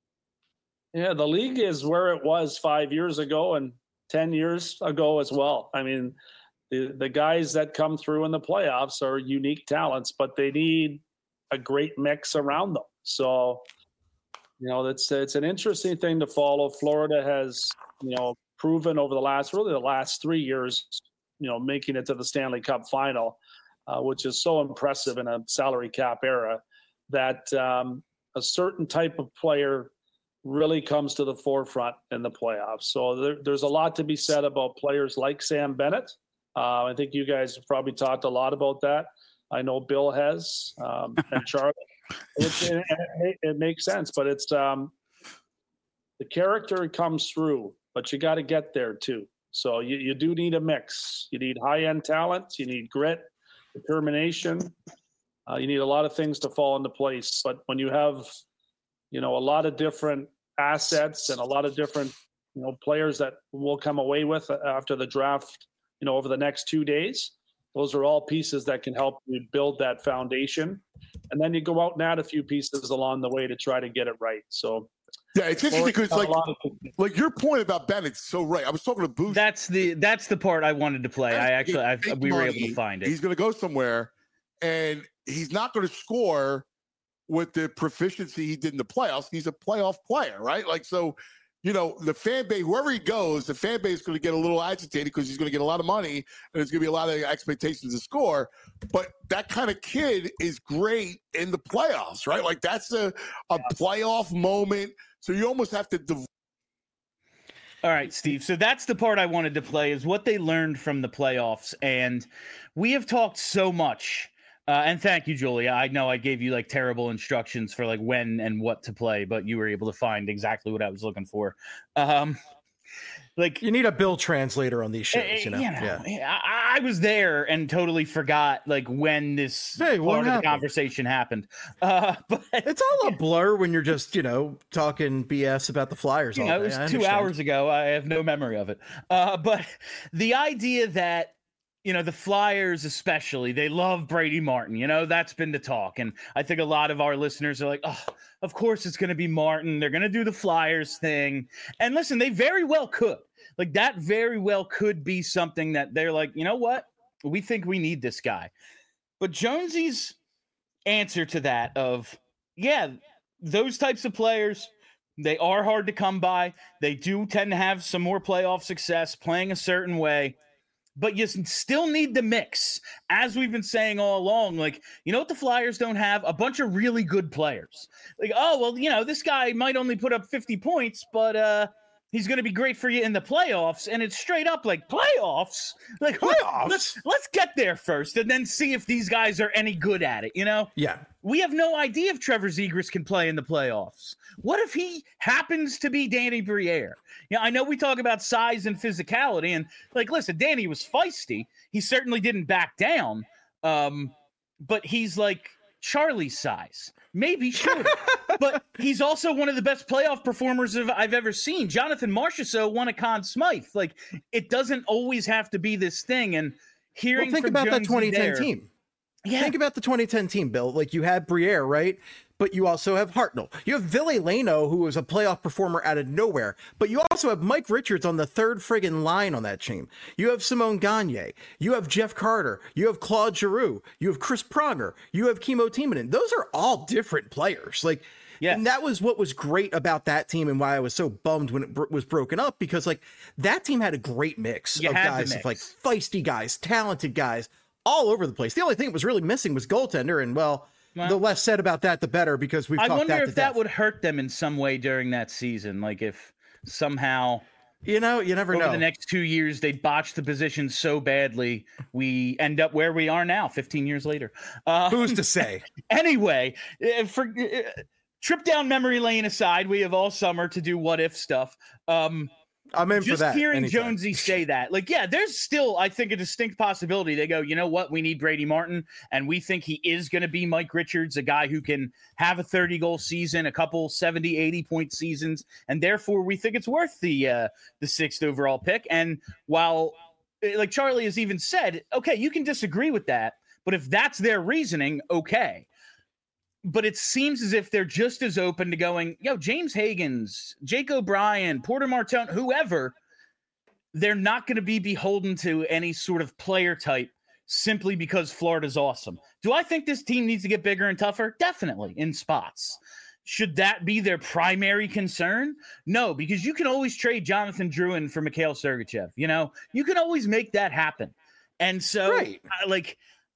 Yeah, the league is where it was five years ago and ten years ago as well. I mean, the, the guys that come through in the playoffs are unique talents, but they need a great mix around them. So, you know, it's, it's an interesting thing to follow. Florida has, you know, proven over the last, really the last three years, you know, making it to the Stanley Cup final, uh, which is so impressive in a salary cap era, that um, a certain type of player really comes to the forefront in the playoffs. So there, there's a lot to be said about players like Sam Bennett. Uh, I think you guys have probably talked a lot about that. I know Bill has, um, and Charlie. It, it, it, it makes sense, but it's um, the character comes through, but you got to get there too. So you, you do need a mix. You need high-end talent. You need grit, determination. Uh, you need a lot of things to fall into place. But when you have, you know, a lot of different assets and a lot of different, you know, players that we'll come away with after the draft, you know, over the next two days, those are all pieces that can help you build that foundation. And then you go out and add a few pieces along the way to try to get it right. So, yeah, it's interesting because like, like your point about Bennett's so right. I was talking to Booth. That's the that's the part I wanted to play. I actually I, we were able to find it. He's going to go somewhere, and he's not going to score with the proficiency he did in the playoffs. He's a playoff player, right? Like, so, you know, the fan base, wherever he goes, the fan base is going to get a little agitated because he's going to get a lot of money and there's going to be a lot of expectations to score. But that kind of kid is great in the playoffs, right? Like, that's a, a playoff moment. So you almost have to. Div- All right, Steve. So that's the part I wanted to play, is what they learned from the playoffs. And we have talked so much. Uh, and thank you, Julia. I know I gave you like terrible instructions for like when and what to play, but you were able to find exactly what I was looking for. Um, like you need a Bill translator on these shows, you know. You know yeah. I, I was there and totally forgot like when this hey, part of the conversation happened. Uh, but it's all a blur when you're just, you know, talking B S about the Flyers. You all know, day. it was two hours ago. I have no memory of it. Uh, but the idea that, you know, the Flyers especially, they love Brady Martin. You know, that's been the talk. And I think a lot of our listeners are like, oh, of course it's going to be Martin. They're going to do the Flyers thing. And listen, they very well could. Like, that very well could be something that they're like, you know what? We think we need this guy. But Jonesy's answer to that of, yeah, those types of players, they are hard to come by. They do tend to have some more playoff success playing a certain way. But you still need the mix, as we've been saying all along. Like, you know what the Flyers don't have? A bunch of really good players. Like, oh, well, you know, this guy might only put up fifty points, but uh, He's going to be great for you in the playoffs, and it's straight up like playoffs. Like Playoffs? Let's let's get there first, and then see if these guys are any good at it. You know? Yeah. We have no idea if Trevor Zegras can play in the playoffs. What if he happens to be Danny Briere? Yeah, I know we talk about size and physicality, and like, listen, Danny was feisty. He certainly didn't back down, um, but he's like Charlie's size, maybe shorter. But he's also one of the best playoff performers I've ever seen. Jonathan Marchessault won a Conn Smythe. Like, it doesn't always have to be this thing. And hearing well, think from about Jonesy that twenty ten there, team. Yeah. Think about the twenty ten team, Bill. Like, you had Briere, right? But you also have Hartnell. You have Ville Leno, who was a playoff performer out of nowhere. But you also have Mike Richards on the third friggin' line on that team. You have Simone Gagne. You have Jeff Carter. You have Claude Giroux. You have Chris Pronger. You have Kimmo Timonen. Those are all different players. Like, yes. And that was what was great about that team and why I was so bummed when it br- was broken up, because, like, that team had a great mix You of had the guys, mix. of, like, feisty guys, talented guys, all over the place. The only thing that was really missing was goaltender, and, well, Well, the less said about that, the better, because we've I talked wonder that if to that death. would hurt them in some way during that season. Like, if somehow You know, you never over know. the next two years they botch the position so badly, we end up where we are now, fifteen years later. Uh, Who's to say? anyway, uh, for uh, trip down memory lane aside, we have all summer to do what if stuff. Um, I'm in for just that. hearing anytime. Jonesy say that, like, yeah, there's still, I think, a distinct possibility. They go, you know what? We need Brady Martin, and we think he is going to be Mike Richards, a guy who can have a thirty goal season, a couple seventy, eighty point seasons, and therefore we think it's worth the uh, the sixth overall pick. And while, like Charlie has even said, okay, you can disagree with that, but if that's their reasoning, okay. But it seems as if they're just as open to going, yo, James Higgins, Jake O'Brien, Porter Martone, whoever, they're not going to be beholden to any sort of player type simply because Florida's awesome. Do I think this team needs to get bigger and tougher? Definitely, in spots. Should that be their primary concern? No, because you can always trade Jonathan Drouin for Mikhail Sergachev. You know, you can always make that happen. And so, Right. I, like,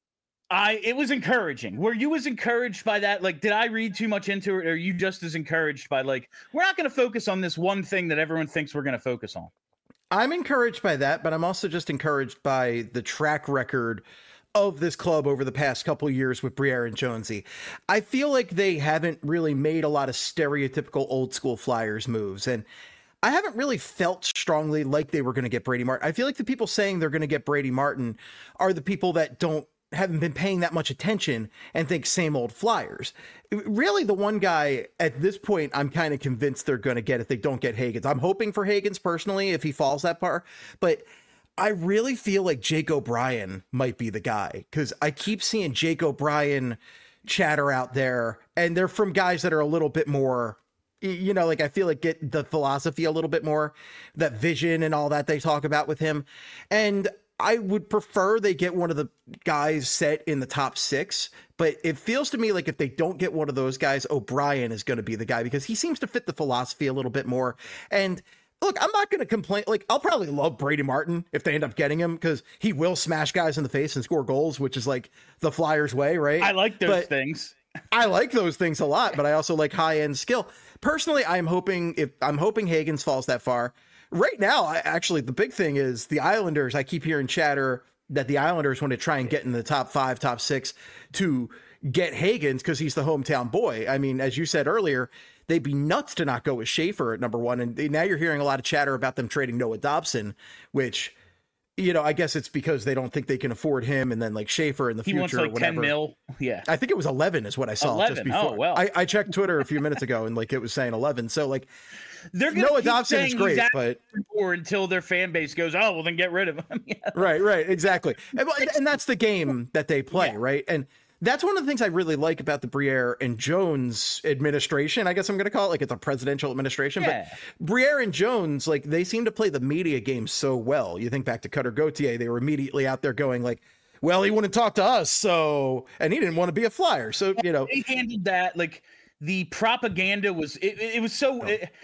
I it was encouraging. Were you as encouraged by that? Like, did I read too much into it? Or are you just as encouraged by, like, we're not going to focus on this one thing that everyone thinks we're going to focus on? I'm encouraged by that, but I'm also just encouraged by the track record of this club over the past couple of years with Briere and Jonesy. I feel like they haven't really made a lot of stereotypical old school Flyers moves, and I haven't really felt strongly like they were going to get Brady Martin. I feel like the people saying they're going to get Brady Martin are the people that don't haven't been paying that much attention and think same old Flyers. Really, the one guy at this point, I'm kind of convinced they're going to get if they don't get Higgins. I'm hoping for Higgins personally if he falls that far, but I really feel like Jake O'Brien might be the guy, because I keep seeing Jake O'Brien chatter out there, and they're from guys that are a little bit more, you know, like I feel like get the philosophy a little bit more, that vision and all that they talk about with him. And I would prefer they get one of the guys set in the top six, but it feels to me like if they don't get one of those guys, O'Brien is going to be the guy, because he seems to fit the philosophy a little bit more. And look, I'm not going to complain. Like, I'll probably love Brady Martin if they end up getting him, because he will smash guys in the face and score goals, which is like the Flyers way, right? I like those But things. I like those things a lot, but I also like high end skill. Personally, I'm hoping if I'm hoping Higgins falls that far. Right now, I actually the big thing is the Islanders. I keep hearing chatter that the Islanders want to try and get in the top five, top six to get Higgins because he's the hometown boy. I mean, as you said earlier, they'd be nuts to not go with Schaefer at number one. And now you're hearing a lot of chatter about them trading Noah Dobson, which, you know, I guess it's because they don't think they can afford him, and then like Schaefer in the He future wants or like whatever. ten mil. Yeah. I think it was eleven is what I saw just eleven. before. Oh, well. I, I checked Twitter a few minutes ago and like it was saying eleven. So like They're gonna Noah keep Dobson is saying great, he's but or until their fan base goes, oh, well, then get rid of him. Yeah. right, right, exactly. And, and that's the game that they play, Yeah. right? And that's one of the things I really like about the Briere and Jones administration. I guess I'm going to call it like it's a presidential administration. Yeah. But Briere and Jones, like they seem to play the media game so well. You think back to Cutter Gauthier, they were immediately out there going like, well, he wouldn't talk to us, so, and he didn't want to be a Flyer. So, you know. They handled that. Like the propaganda was, it, it was so, Oh. it,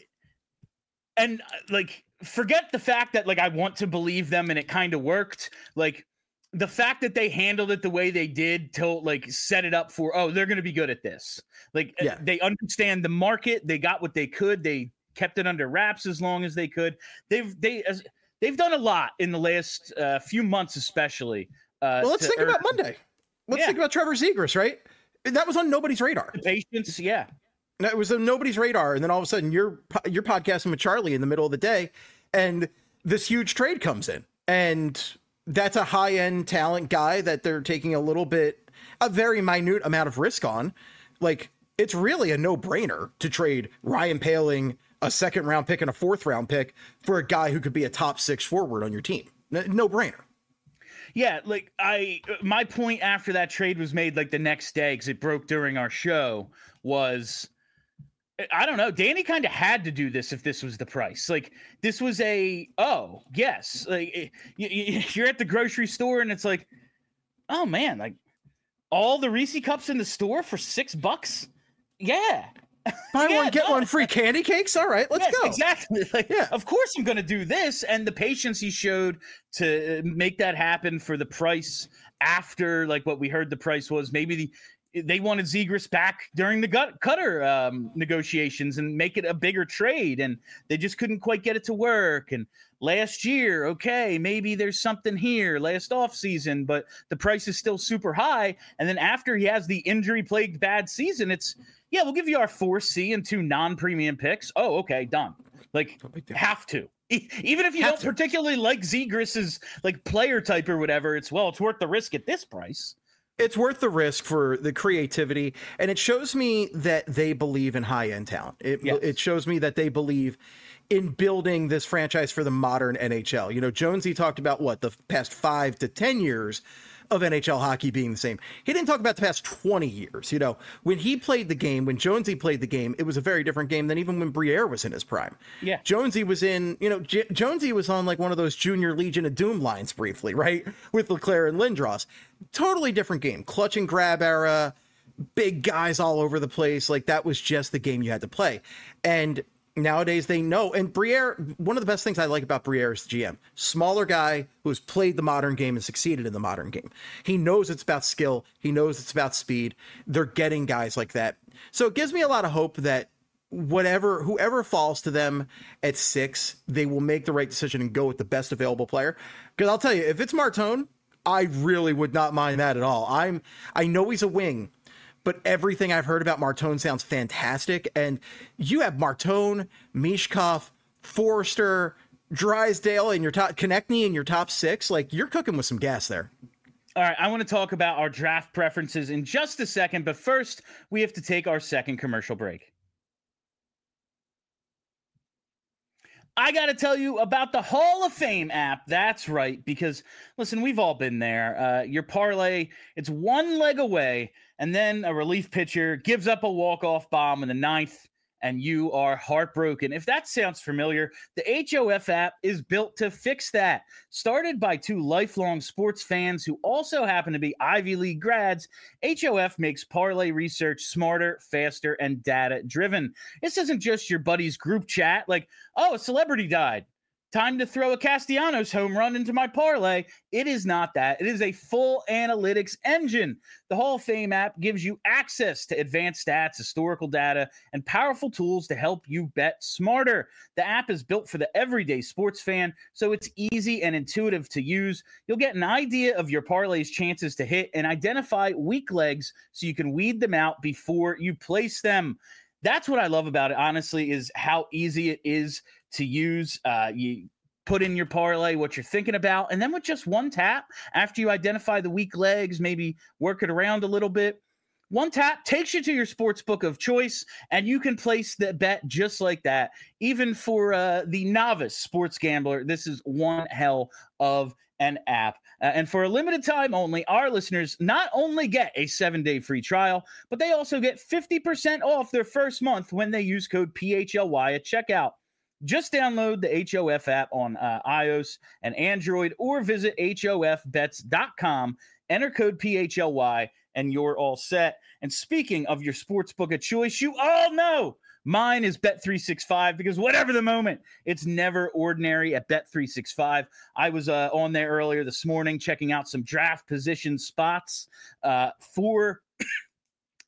and like, forget the fact that like I want to believe them and it kind of worked. Like, the fact that they handled it the way they did to like set it up for, oh, they're going to be good at this. Like Yeah. they understand the market. They got what they could. They kept it under wraps as long as they could. They've they as, they've done a lot in the last uh, few months, especially. Uh, well, let's to think earn- about Monday. Let's Yeah. think about Trevor Zegras, right? That was on nobody's radar. Patience, yeah. No, it was on nobody's radar, and then all of a sudden you're you're podcasting with Charlie in the middle of the day, and this huge trade comes in, and that's a high end talent guy that they're taking a little bit, a very minute amount of risk on. Like, it's really a no brainer to trade Ryan Poehling, a second round pick and a fourth round pick, for a guy who could be a top six forward on your team. No brainer. Yeah, like I, my point after that trade was made like the next day because it broke during our show was, I don't know, Danny kind of had to do this if this was the price. Like this was a, oh yes, like you, you, you're at the grocery store and it's like, oh man, like all the Reese cups in the store for six bucks. Yeah. Buy Yeah, one, get no, one free candy cakes. All right, let's yes, go. Exactly. Like, Yeah. Of course I'm going to do this. And the patience he showed to make that happen for the price after like what we heard the price was, maybe the, they wanted Zegras back during the gut cutter um, negotiations and make it a bigger trade. And they just couldn't quite get it to work. And last year, okay, maybe there's something here last offseason, but the price is still super high. And then after he has the injury plagued bad season, it's, yeah, we'll give you our four C and two non-premium picks. Oh, okay, done. Like, have to. E- Even if you Have don't to. particularly like Zegras's like player type or whatever, it's, well, it's worth the risk at this price. It's worth the risk for the creativity, and it shows me that they believe in high-end talent. It, Yes. it shows me that they believe in building this franchise for the modern N H L. You know, Jonesy talked about, what, the past five to ten years of N H L hockey being the same. He didn't talk about the past twenty years. You know, when he played the game, when Jonesy played the game, it was a very different game than even when Briere was in his prime. Yeah. Jonesy was in, you know, J- Jonesy was on like one of those junior Legion of Doom lines briefly, right? With Leclerc and Lindros. Totally different game. Clutch and grab era, big guys all over the place. Like that was just the game you had to play. And nowadays they know. And Briere, one of the best things I like about Briere is the G M. Smaller guy who has played the modern game and succeeded in the modern game. He knows it's about skill. He knows it's about speed. They're getting guys like that. So it gives me a lot of hope that whatever, whoever falls to them at six, they will make the right decision and go with the best available player. Because I'll tell you, if it's Martone, I really would not mind that at all. I'm, I know he's a wing, but everything I've heard about Martone sounds fantastic. And you have Martone, Mishkov, Forrester, Drysdale in your top, Konechny in your top six. Like you're cooking with some gas there. All right, I want to talk about our draft preferences in just a second, but first we have to take our second commercial break. I got to tell you about the Hall of Fame app. That's right, because listen, we've all been there. Uh, your parlay, it's one leg away, and then a relief pitcher gives up a walk-off bomb in the ninth, and you are heartbroken. If that sounds familiar, the H O F app is built to fix that. Started by two lifelong sports fans who also happen to be Ivy League grads, H O F makes parlay research smarter, faster, and data-driven. This isn't just your buddy's group chat like, oh, a celebrity died. Time to throw a Castellanos home run into my parlay. It is not that. It is a full analytics engine. The Hall of Fame app gives you access to advanced stats, historical data, and powerful tools to help you bet smarter. The app is built for the everyday sports fan, so it's easy and intuitive to use. You'll get an idea of your parlay's chances to hit and identify weak legs so you can weed them out before you place them. That's what I love about it, honestly, is how easy it is to use. Uh, you put in your parlay, what you're thinking about, and then with just one tap, after you identify the weak legs, maybe work it around a little bit, one tap takes you to your sports book of choice, and you can place the bet just like that. Even for uh, the novice sports gambler, this is one hell of an app. Uh, and for a limited time only, our listeners not only get a seven-day free trial, but they also get fifty percent off their first month when they use code P H L Y at checkout. Just download the H O F app on uh, iOS and Android or visit H O F bets dot com, enter code P H L Y, and you're all set. And speaking of your sportsbook of choice, you all know mine is Bet three sixty-five because whatever the moment, it's never ordinary at Bet three sixty-five. I was uh, on there earlier this morning checking out some draft position spots uh, for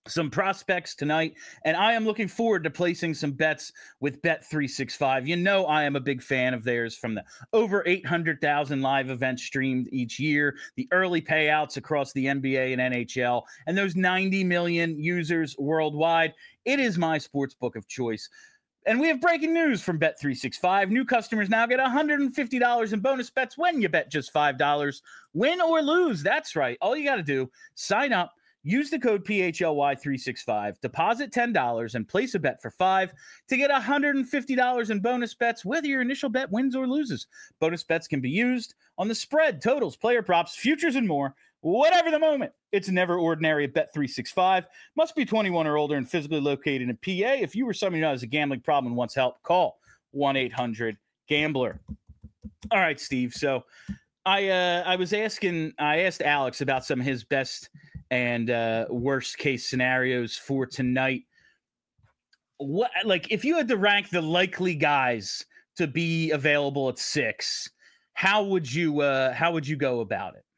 some prospects tonight, and I am looking forward to placing some bets with Bet three sixty-five. You know, I am a big fan of theirs from the over eight hundred thousand live events streamed each year, the early payouts across the N B A and N H L, and those ninety million users worldwide. It is my sports book of choice. And we have breaking news from Bet three sixty-five. New customers now get one hundred fifty dollars in bonus bets when you bet just five dollars. Win or lose, that's right. All you got to do, sign up, use the code P H L Y three sixty-five, deposit ten dollars, and place a bet for five to get one hundred fifty dollars in bonus bets, whether your initial bet wins or loses. Bonus bets can be used on the spread, totals, player props, futures, and more. Whatever the moment, it's never ordinary at Bet three sixty-five. Must be twenty-one or older and physically located in P A. If you or someone who has a gambling problem and wants help, call one eight hundred gambler. All right, Steve. So I uh, I was asking, I asked Alex about some of his best and uh, worst case scenarios for tonight. What, like, if you had to rank the likely guys to be available at six, how would you uh, how would you go about it?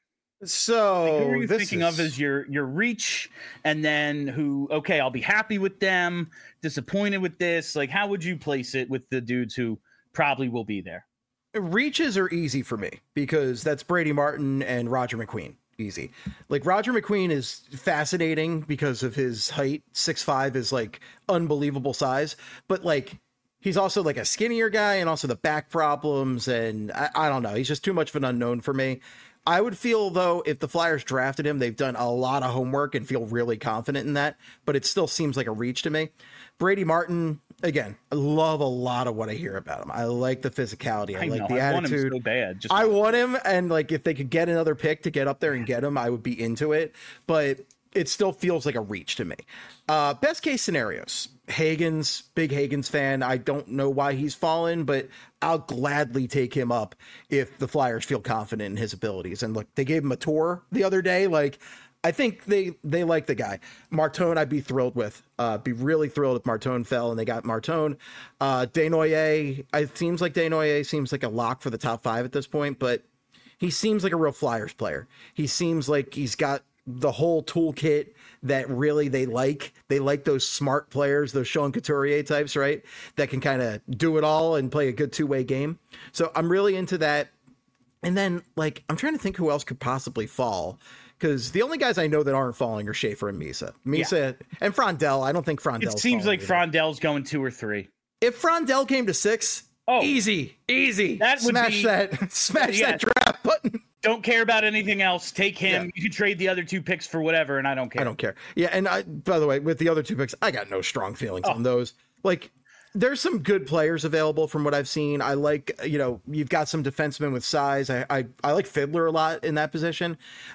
So Like, who are you this thinking is... of as your your reach, and then who? Okay, I'll be happy with them, disappointed with this. Like, how would you place it with the dudes who probably will be there? Reaches are easy for me because that's Brady Martin and Roger McQueen. Easy. Like, Roger McQueen is fascinating because of his height. six five is like unbelievable size, but like he's also like a skinnier guy and also the back problems. And I, I don't know. He's just too much of an unknown for me. I would feel, though, if the Flyers drafted him, they've done a lot of homework and feel really confident in that, but it still seems like a reach to me. Brady Martin, again, I love a lot of what I hear about him. I like the physicality. I, I like know, the I attitude. want him so bad. Just I want him, and like if they could get another pick to get up there and get him, I would be into it, but it still feels like a reach to me. Uh, best case scenarios. Hagens, big Hagens fan. I don't know why he's fallen, but I'll gladly take him up if the Flyers feel confident in his abilities. And look, they gave him a tour the other day. Like, I think they they like the guy. Martone, I'd be thrilled with. Uh, be really thrilled if Martone fell and they got Martone. Uh, Desnoyers, it seems like Desnoyers seems like a lock for the top five at this point, but he seems like a real Flyers player. He seems like he's got the whole toolkit that really they like. They like those smart players, those Sean Couturier types, right? That can kind of do it all and play a good two-way game. So I'm really into that. And then, like, I'm trying to think who else could possibly fall, because the only guys I know that aren't falling are Schaefer and Misa. Misa yeah. and Frondell. I don't think Frondell. It seems like either. Frondell's going two or three. If Frondell came to six, oh, easy, easy. That would smash be, that, smash yeah. that draft button. Don't care about anything else. Take him. Yeah. You can trade the other two picks for whatever, and I don't care. I don't care. Yeah, and I, by the way, with the other two picks, I got no strong feelings oh. on those. Like, there's some good players available from what I've seen. I like, you know, you've got some defensemen with size. I I, I like Fiddler a lot in that position.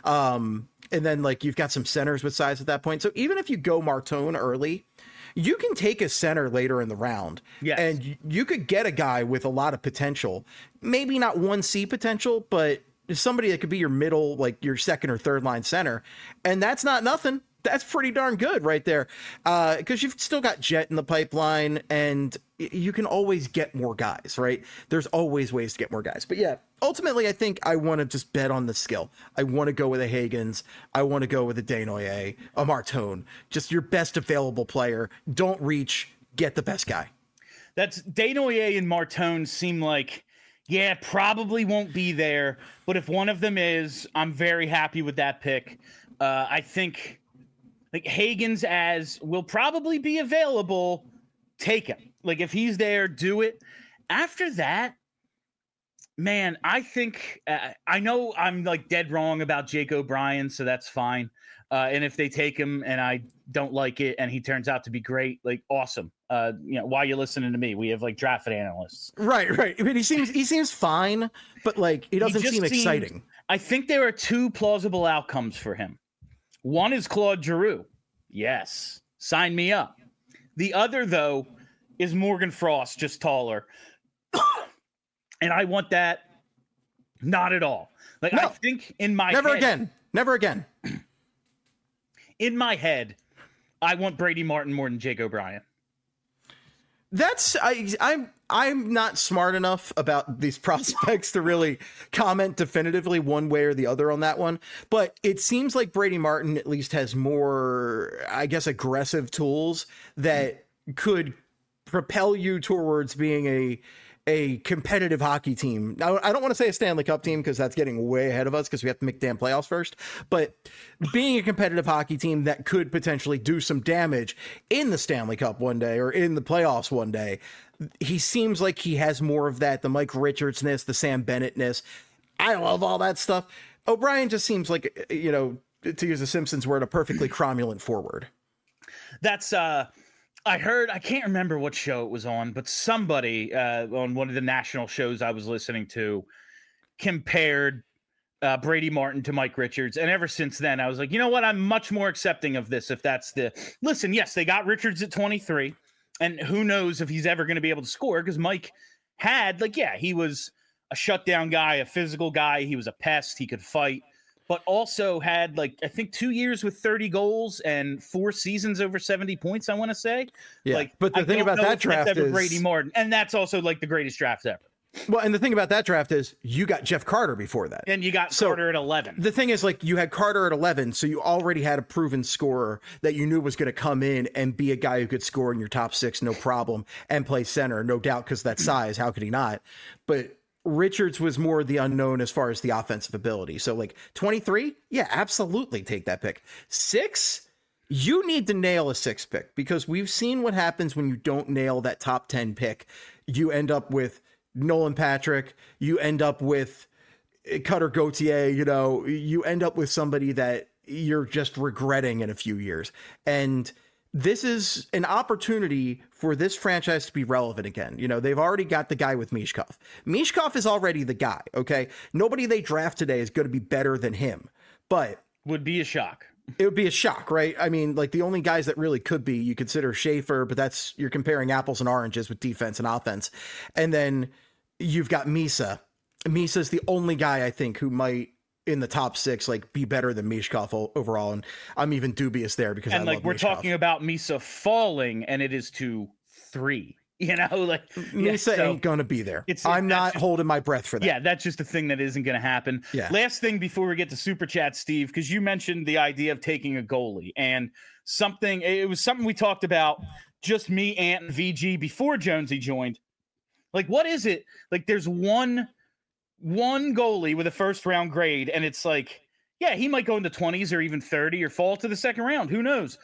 Um, and then, like, you've got some centers with size at that point. So even if you go Martone early, you can take a center later in the round. Yes. And you could get a guy with a lot of potential. Maybe not one C potential, but somebody that could be your middle, like your second or third line center. And that's not nothing. That's pretty darn good right there. Uh, because you've still got Jet in the pipeline, and you can always get more guys, right? There's always ways to get more guys. But yeah, ultimately, I think I want to just bet on the skill. I want to go with a Hagens. I want to go with a Desnoyers, a Martone. Just your best available player. Don't reach. Get the best guy. That's Desnoyers and Martone seem like, yeah, probably won't be there. But if one of them is, I'm very happy with that pick. Uh, I think like Hagens as will probably be available. Take him. Like, if he's there, do it. After that, man, I think uh, I know I'm like dead wrong about Jake O'Brien, so that's fine. Uh, and if they take him and I don't like it and he turns out to be great, like, awesome. Uh, you know, why are you listening to me? We have like draft analysts. Right, right. I mean, he seems he seems fine, but like he doesn't he seem exciting. Seemed, I think there are two plausible outcomes for him. One is Claude Giroux. Yes, sign me up. The other, though, is Morgan Frost, just taller. And I want that not at all. Like, no, I think in my never head, again. Never again. In my head, I want Brady Martin more than Jake O'Brien. That's I I'm I'm not smart enough about these prospects to really comment definitively one way or the other on that one. But it seems like Brady Martin at least has more, I guess, aggressive tools that could propel you towards being a a competitive hockey team. Now, I don't want to say a Stanley Cup team because that's getting way ahead of us because we have to make damn playoffs first. But being a competitive hockey team that could potentially do some damage in the Stanley Cup one day or in the playoffs one day, he seems like he has more of that, the Mike Richards-ness, the Sam Bennett-ness. I love all that stuff. O'Brien just seems like, you know, to use a Simpsons word, a perfectly cromulent forward. That's uh I heard, I can't remember what show it was on, but somebody uh, on one of the national shows I was listening to compared uh, Brady Martin to Mike Richards. And ever since then, I was like, you know what? I'm much more accepting of this if that's the... Listen, yes, they got Richards at twenty-three, and who knows if he's ever going to be able to score, because Mike had, like, yeah, he was a shutdown guy, a physical guy. He was a pest. He could fight. But also had, like, I think two years with thirty goals and four seasons over seventy points, I want to say. Yeah, like, but the I thing don't about know that if draft that's ever is... Brady Martin. And that's also, like, the greatest draft ever. Well, and the thing about that draft is you got Jeff Carter before that. And you got So, Carter at eleven. The thing is, like, you had Carter at eleven, so you already had a proven scorer that you knew was going to come in and be a guy who could score in your top six, no problem, and play center, no doubt, because that size. How could he not? But Richards was more the unknown as far as the offensive ability. So, like, twenty-three, yeah, absolutely take that pick. Six, you need to nail a six pick, because we've seen what happens when you don't nail that top ten pick. You end up with Nolan Patrick, you end up with Cutter Gauthier, you know, you end up with somebody that you're just regretting in a few years. And this is an opportunity for this franchise to be relevant again. You know, they've already got the guy with Mishkov. Mishkov is already the guy, okay? Nobody they draft today is going to be better than him, but... Would be a shock. It would be a shock, right? I mean, like, the only guys that really could be, you consider Schaefer, but that's, you're comparing apples and oranges with defense and offense. And then you've got Misa. Misa's the only guy, I think, who might, in the top six, like, be better than Mishkov o- overall. And I'm even dubious there because and I like love we're Mishkov. talking about Misa falling, and it is to three. You know, like Misa yeah, so ain't gonna be there. it's- I'm that's not just- holding my breath for that. Yeah, that's just a thing that isn't going to happen. Yeah. Last thing before we get to super chat, Steve, because you mentioned the idea of taking a goalie, and something. It was something we talked about, just me, Ant, and V G before Jonesy joined. Like, what is it? Like, there's one one goalie with a first round grade, and it's like, yeah, he might go into twenties or even thirty or fall to the second round. Who knows?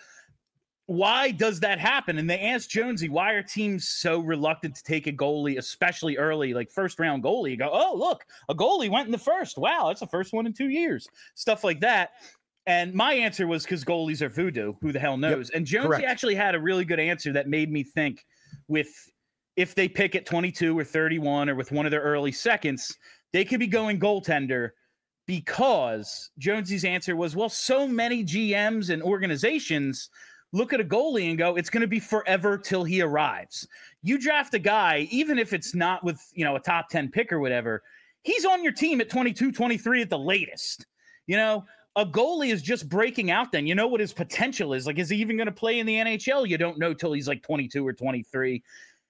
Why does that happen? And they asked Jonesy, why are teams so reluctant to take a goalie, especially early, like first round goalie? You go, oh, look, a goalie went in the first. Wow, that's the first one in two years. Stuff like that. And my answer was because goalies are voodoo. Who the hell knows? Yep, and Jonesy correct. actually had a really good answer that made me think with if they pick at twenty-two or thirty-one or with one of their early seconds, they could be going goaltender, because Jonesy's answer was, well, so many G Ms and organizations look at a goalie and go, it's going to be forever till he arrives. You draft a guy, even if it's not with, you know, a top ten pick or whatever, he's on your team at twenty-two, twenty-three at the latest. You know, a goalie is just breaking out then. You know what his potential is. Like, is he even going to play in the N H L? You don't know till he's like twenty-two or twenty-three.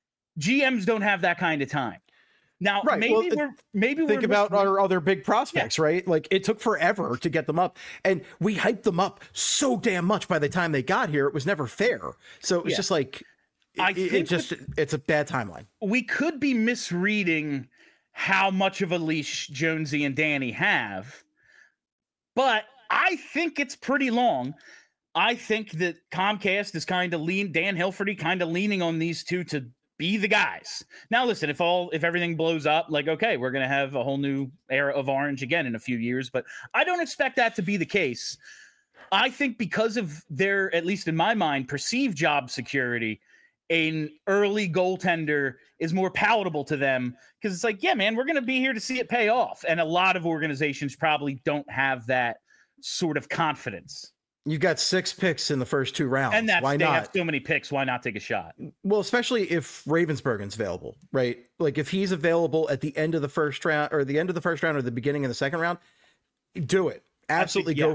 G Ms don't have that kind of time. Now, right. maybe well, we're maybe think we're about listening. our other big prospects, yeah. right? Like, it took forever to get them up, and we hyped them up so damn much by the time they got here. It was never fair. So it was yeah. just like, it, I it, think it just with, it's a bad timeline. We could be misreading how much of a leash Jonesy and Danny have, but I think it's pretty long. I think that Comcast is kind of lean, Dan Hilferty kind of leaning on these two to be the guys. Now, listen, if all if everything blows up, like, okay, we're going to have a whole new era of Orange again in a few years, but I don't expect that to be the case. I think because of their, at least in my mind, perceived job security, an early goaltender is more palatable to them, because it's like, yeah, man, we're going to be here to see it pay off. And a lot of organizations probably don't have that sort of confidence. You've got six picks in the first two rounds. And that's, why they not? have so many picks. Why not take a shot? Well, especially if Ravensburgen's available, right? Like, if he's available at the end of the first round or the end of the first round or the beginning of the second round, do it. Absolutely think, yeah. go for it.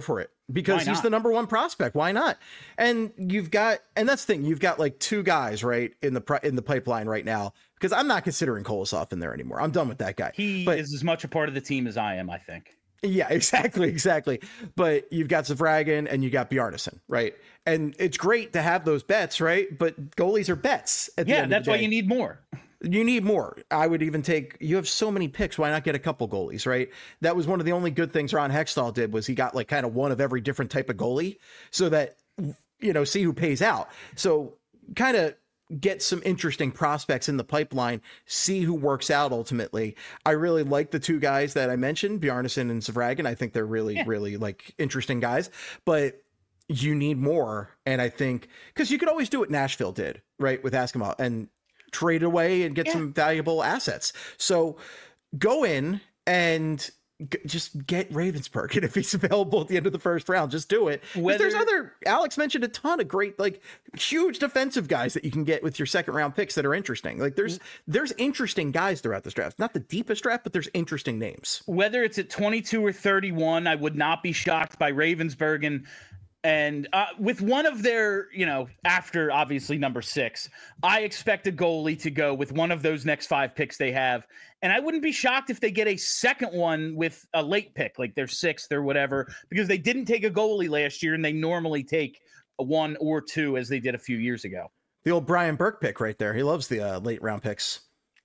because Why he's not? the number one prospect. Why not? And you've got, and that's the thing, you've got like two guys right in the pri- in the pipeline right now. Because I'm not considering Kolosov in there anymore. I'm done with that guy. He but, is as much a part of the team as I am, I think. Yeah, exactly, exactly. But you've got Zavragin and you got Bjarnason, right? And it's great to have those bets, right? But goalies are bets. At the Yeah, end that's of the why day. you need more. You need more. I would even take, you have so many picks. Why not get a couple goalies, right? That was one of the only good things Ron Hextall did was he got like kind of one of every different type of goalie so that, you know, see who pays out. So kind of get some interesting prospects in the pipeline, see who works out ultimately. I really like the two guys that I mentioned, Bjarnason and Zavragin. I think they're really, yeah. really like interesting guys, but you need more. And I think, because you could always do what Nashville did, right, with Eskimo and trade away and get yeah. some valuable assets. So go in and g- just get Ravensburg. And if he's available at the end of the first round, just do it. Whether there's other, Alex mentioned a ton of great, like huge defensive guys that you can get with your second round picks that are interesting. Like there's, there's interesting guys throughout this draft, not the deepest draft, but there's interesting names. Whether it's at twenty-two or thirty-one, I would not be shocked by Ravensburg and And uh, with one of their, you know, after obviously number six, I expect a goalie to go with one of those next five picks they have. And I wouldn't be shocked if they get a second one with a late pick, like their sixth or whatever, because they didn't take a goalie last year and they normally take a one or two as they did a few years ago. The old Brian Burke pick right there. He loves the uh, late round picks.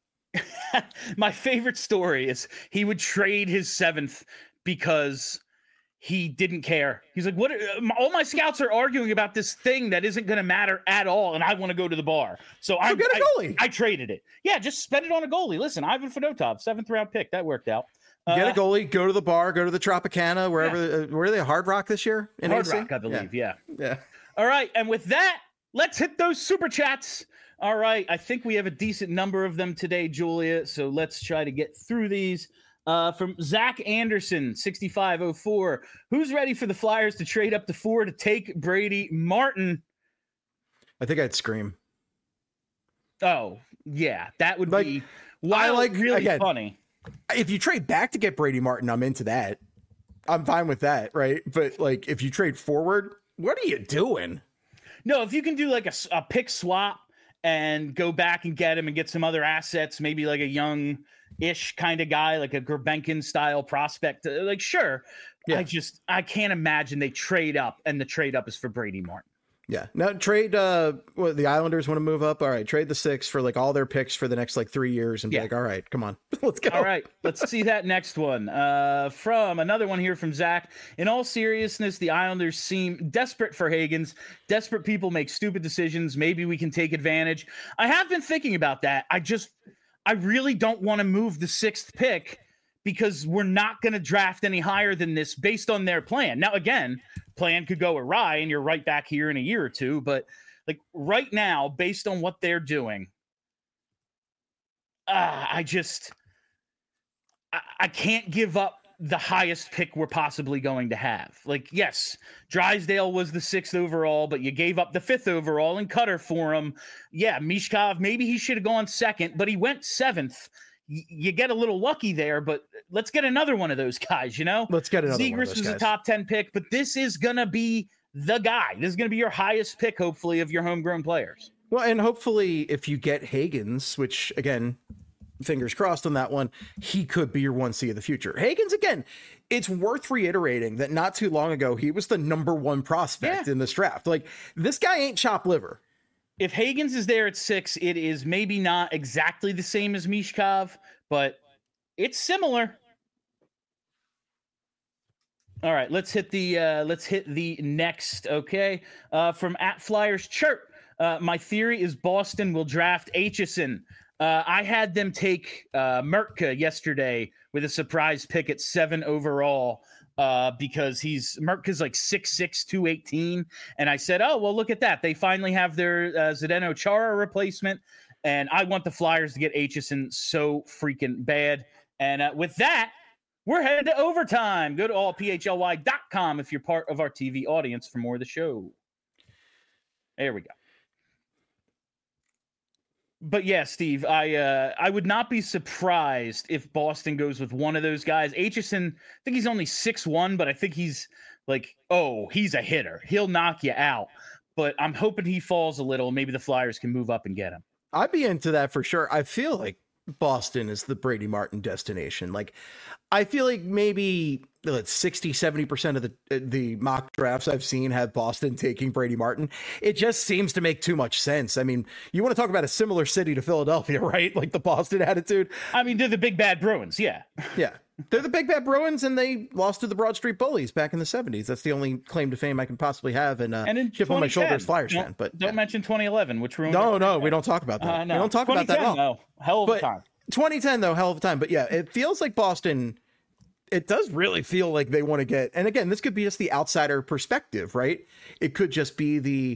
My favorite story is he would trade his seventh because he didn't care. He's like, what? All my scouts are arguing about this thing that isn't going to matter at all. And I want to go to the bar. So, so I, get a goalie. I, I traded it. Yeah. Just spend it on a goalie. Listen, Ivan Fedotov, seventh round pick. That worked out. Get uh, a goalie, go to the bar, go to the Tropicana, wherever, yeah. uh, where are they? Hard Rock this year? In Hard A C? Rock, I believe. Yeah. yeah. Yeah. All right. And with that, let's hit those super chats. All right. I think we have a decent number of them today, Julia. So let's try to get through these. Uh, from Zach Anderson, sixty-five oh four. Who's ready for the Flyers to trade up to four to take Brady Martin? I think I'd scream. Oh, yeah. That would like, be wild, I like, really again, funny. If you trade back to get Brady Martin, I'm into that. I'm fine with that, right? But like, if you trade forward, what are you doing? No, if you can do like a, a pick swap and go back and get him and get some other assets, maybe like a young ish kind of guy, like a Gerbenkin style prospect, like sure. Yeah. I just I can't imagine they trade up and the trade up is for Brady Martin. Yeah. Now trade uh what the Islanders want to move up. All right, trade the six for like all their picks for the next like three years and be yeah. like, all right, come on. Let's go. All right, let's see that next one. Uh from another one here from Zach. In all seriousness, the Islanders seem desperate for Higgins. Desperate people make stupid decisions. Maybe we can take advantage. I have been thinking about that. I just I really don't want to move the sixth pick because we're not going to draft any higher than this based on their plan. Now, again, plan could go awry and you're right back here in a year or two. But like right now, based on what they're doing, uh, I just, I, I can't give up the highest pick we're possibly going to have. Like, yes, Drysdale was the sixth overall, but you gave up the fifth overall and Cutter for him. Yeah, Mishkov, maybe he should have gone second, but he went seventh. Y- you get a little lucky there, but let's get another one of those guys, you know? Let's get another Zegras one of those was guys. a top ten pick, but this is going to be the guy. This is going to be your highest pick, hopefully, of your homegrown players. Well, and hopefully if you get Higgins, which again, fingers crossed on that one, he could be your one C of the future. Higgins, again, it's worth reiterating that not too long ago, he was the number one prospect yeah. in this draft. Like, this guy ain't chopped liver. If Higgins is there at six, it is maybe not exactly the same as Mishkov, but it's similar. All right, let's hit the uh, let's hit the next. Okay, uh, from at Flyers Chirp. Uh, my theory is Boston will draft Aitchison. Uh, I had them take uh, Mertka yesterday with a surprise pick at seven overall uh, because he's Mertka's like six six, two eighteen. And I said, oh, well, look at that. They finally have their uh, Zdeno Chara replacement. And I want the Flyers to get Aitchison so freaking bad. And uh, with that, we're headed to overtime. Go to all p h l y dot com if you're part of our T V audience for more of the show. There we go. But yeah, Steve, I uh, I would not be surprised if Boston goes with one of those guys. Aitchison, I think he's only six one, but I think he's like, oh, he's a hitter. He'll knock you out. But I'm hoping he falls a little. Maybe the Flyers can move up and get him. I'd be into that for sure. I feel like Boston is the Brady Martin destination. Like, I feel like maybe let's sixty, seventy percent of the the mock drafts I've seen have Boston taking Brady Martin. It just seems to make too much sense. I mean, you want to talk about a similar city to Philadelphia, right? Like the Boston attitude. I mean, they're the big bad Bruins. Yeah. Yeah. They're the big bad Bruins, and they lost to the Broad Street Bullies back in the seventies. That's the only claim to fame I can possibly have. And, uh, and in chip on my shoulders, Flyers don't, fan. But don't yeah. mention twenty eleven, which ruined. No, no, we don't talk about that. Uh, no. We don't talk about that at all. No, hell of but a time. twenty ten, though, hell of a time. But yeah, it feels like Boston. It does really feel like they want to get, and again, this could be just the outsider perspective, right? It could just be the,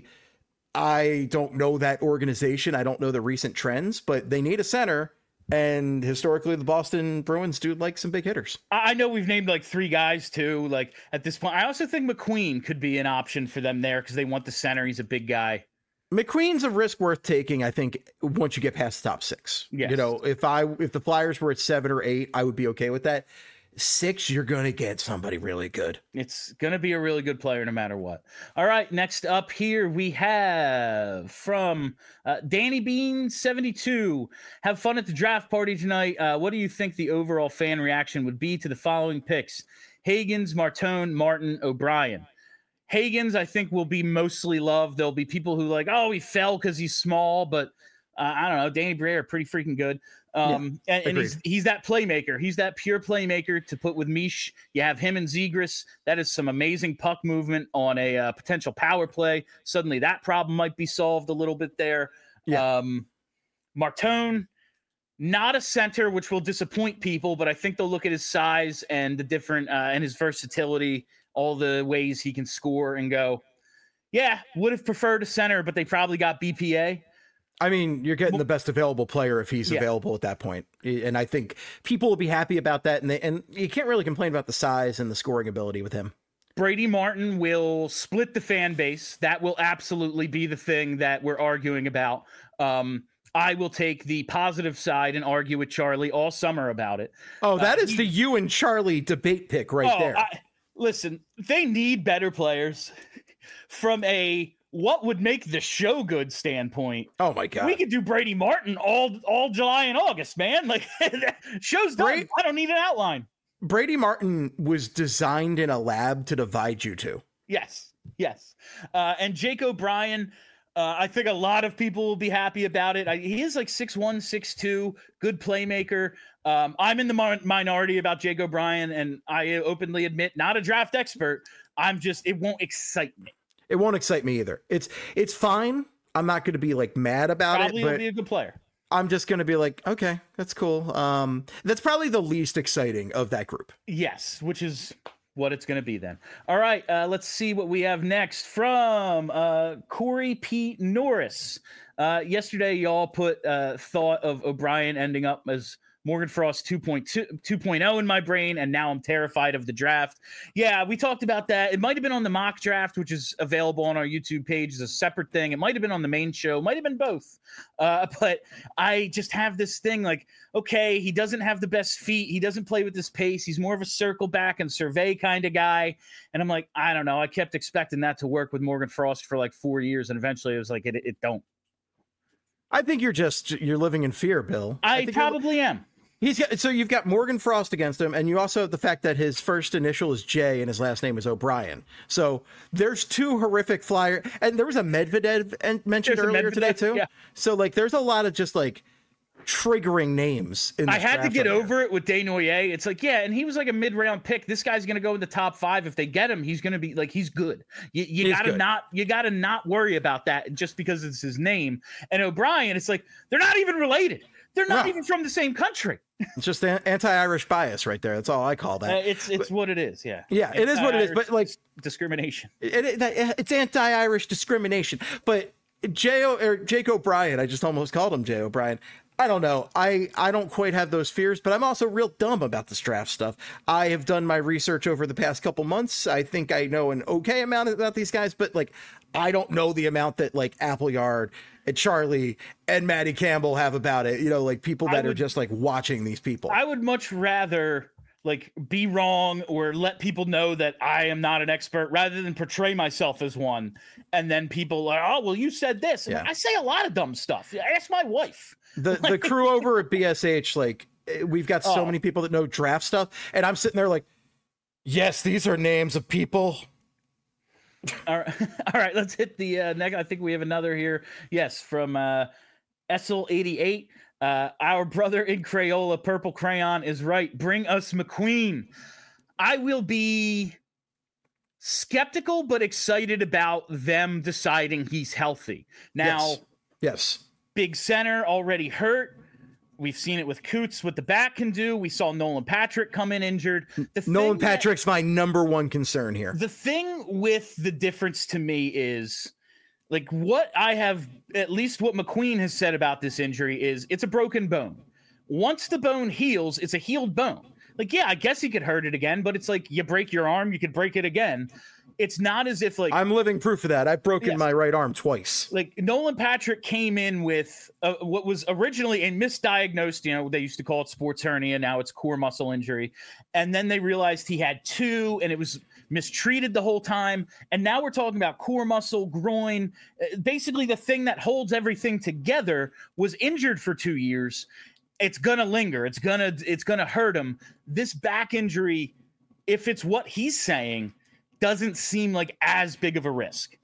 I don't know that organization. I don't know the recent trends, but they need a center. And historically, the Boston Bruins do like some big hitters. I know we've named like three guys too. Like at this point, I also think McQueen could be an option for them there because they want the center. He's a big guy. McQueen's a risk worth taking, I think, once you get past the top six. Yes. You know, if I if the Flyers were at seven or eight, I would be okay with that. Six, you're going to get somebody really good. It's going to be a really good player no matter what. All right, next up here we have from uh, Danny Bean seventy-two. Have fun at the draft party tonight. Uh, what do you think the overall fan reaction would be to the following picks? Higgins, Martone, Martin, O'Brien. Higgins, I think, will be mostly loved. There'll be people who like, oh, he fell because he's small, but uh, I don't know. Danny Briere are pretty freaking good. Um, yeah, and, and he's he's that playmaker. He's that pure playmaker to put with Mish. You have him and Zegras. That is some amazing puck movement on a uh, potential power play. Suddenly that problem might be solved a little bit there. Yeah. Um, Martone, not a center, which will disappoint people, but I think they'll look at his size and the different uh, and his versatility, all the ways he can score and go, yeah, would have preferred a center, but they probably got B P A. I mean, you're getting the best available player if he's yeah. available at that point. And I think people will be happy about that. And they, and you can't really complain about the size and the scoring ability with him. Brady Martin will split the fan base. That will absolutely be the thing that we're arguing about. Um, I will take the positive side and argue with Charlie all summer about it. Oh, that uh, is he, the you and Charlie debate pick right oh, there. I, listen, they need better players from a what would make the show good standpoint. Oh my God. We could do Brady Martin all all July and August, man. Like show's done. Brady, I don't need an outline. Brady Martin was designed in a lab to divide you two. Yes. Yes. Uh, and Jake O'Brien, uh, I think a lot of people will be happy about it. I, he is like six one, six two, good playmaker. Um, I'm in the mi- minority about Jake O'Brien, and I openly admit, not a draft expert. I'm just, it won't excite me. It won't excite me either. It's it's fine. I'm not going to be like mad about probably it. Probably will be a good player. I'm just going to be like, okay, that's cool. Um, that's probably the least exciting of that group. Yes, which is what it's going to be then. All right, uh, let's see what we have next from uh, Corey P. Norris. Uh, yesterday, y'all put uh, thought of O'Brien ending up as Morgan Frost two point two, two point oh in my brain, and now I'm terrified of the draft. Yeah, we talked about that. It might have been on the mock draft, which is available on our YouTube page as a separate thing. It might have been on the main show. Might have been both. Uh, but I just have this thing like, okay, he doesn't have the best feet. He doesn't play with this pace. He's more of a circle back and survey kind of guy. And I'm like, I don't know. I kept expecting that to work with Morgan Frost for like four years, and eventually it was like, it, it don't. I think you're just, you're living in fear, Bill. I, I probably am. He's got, so you've got Morgan Frost against him, and you also have the fact that his first initial is J and his last name is O'Brien. So there's two horrific flyer, and there was a Medvedev en- mentioned There's earlier Medvedev, today too. yeah. So like, there's a lot of just like triggering names. In this I had to draft get right over here. it with Desnoyers. It's like, yeah, and he was like a mid-round pick. This guy's going to go in the top five. If they get him, he's going to be like, he's good. You, you He's gotta good. not, you gotta not worry about that just because it's his name. And O'Brien, it's like they're not even related. They're not No. even from the same country. It's just an anti-Irish bias right there. That's all I call Uh, that. it's it's what it is. Yeah. Yeah, it is what it is. But like, Discrimination. it, it, it's anti-Irish discrimination. But J O or Jake O'Brien, I just almost called him Jay O'Brien. I don't know. I, I don't quite have those fears, but I'm also real dumb about this draft stuff. I have done my research over the past couple months. I think I know an okay amount about these guys, but like, I don't know the amount that like Appleyard and Charlie and Matty Campbell have about it. You know, like people that would- are just like watching these people. I would much rather like be wrong or let people know that I am not an expert rather than portray myself as one. And then people are, oh, well, you said this. And Yeah. I say a lot of dumb stuff. Ask my wife. The the crew over at B S H, like we've got so Oh. many people that know draft stuff, and I'm sitting there like, yes, these are names of people. All right, all right. Let's hit the uh, next. I think we have another here. Yes, from uh, Essel eighty-eight. Uh, our brother in Crayola, Purple Crayon, is right. Bring us McQueen. I will be skeptical but excited about them deciding he's healthy. Now, Yes. Yes. big center already hurt. We've seen it with Coots, what the back can do. We saw Nolan Patrick come in injured. The Nolan thing that- Patrick's my number one concern here. The thing with the difference to me is like what I have, at least what McQueen has said about this injury is it's a broken bone. Once the bone heals, it's a healed bone. Like, yeah, I guess he could hurt it again, but it's like you break your arm, you could break it again. It's not as if like I'm living proof of that. I've broken Yes. my right arm twice. like Nolan Patrick came in with uh, what was originally a misdiagnosed, you know, they used to call it sports hernia. Now it's core muscle injury. And then they realized he had two and it was mistreated the whole time. And now we're talking about core muscle, groin. Uh, basically, the thing that holds everything together was injured for two years. It's going to linger. It's going to, it's going to hurt him. This back injury, if it's what he's saying, doesn't seem like as big of a risk.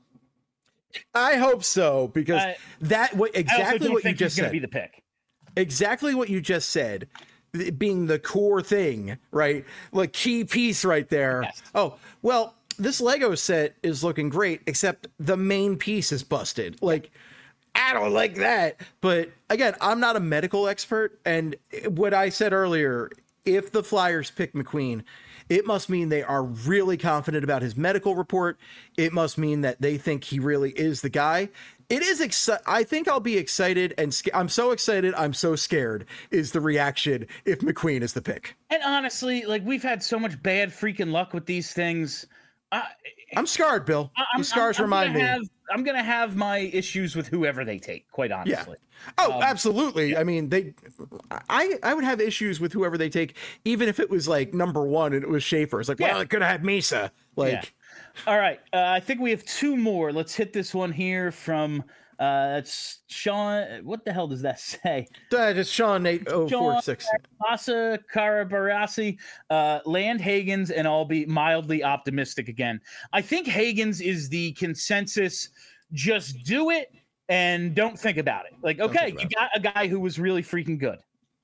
I hope so, because Uh, that what I also exactly don't what you think just he's going said. to be the pick. Exactly what you just said, th- being the core thing, right? Like key piece right there. Yes. Oh, well, this Lego set is looking great, except the main piece is busted. Like, I don't like that. But again, I'm not a medical expert. And what I said earlier, if the Flyers pick McQueen, it must mean they are really confident about his medical report. It must mean that they think he really is the guy. It is exci- I think I'll be excited and sca- I'm so excited, I'm so scared is the reaction if McQueen is the pick. And honestly, like we've had so much bad freaking luck with these things. I, I'm scarred, Bill. I'm, These scars I'm, I'm remind gonna me. Have, I'm gonna have my issues with whoever they take. Quite honestly. Oh, Um, absolutely. I mean, they. I I would have issues with whoever they take, even if it was like number one and it was Schaefer. It's like, Yeah. well, it could have had Misa. Like, Yeah. All right. Uh, I think we have two more. Let's hit this one here from uh it's Sean. What the hell does that say? uh, just Sean eight oh four six. Asa Karabarasi, uh, land Hagens, and I'll be mildly optimistic again. I think Hagens is the consensus. Just do it and don't think about it. Like, okay, think you about got a guy who was really freaking good.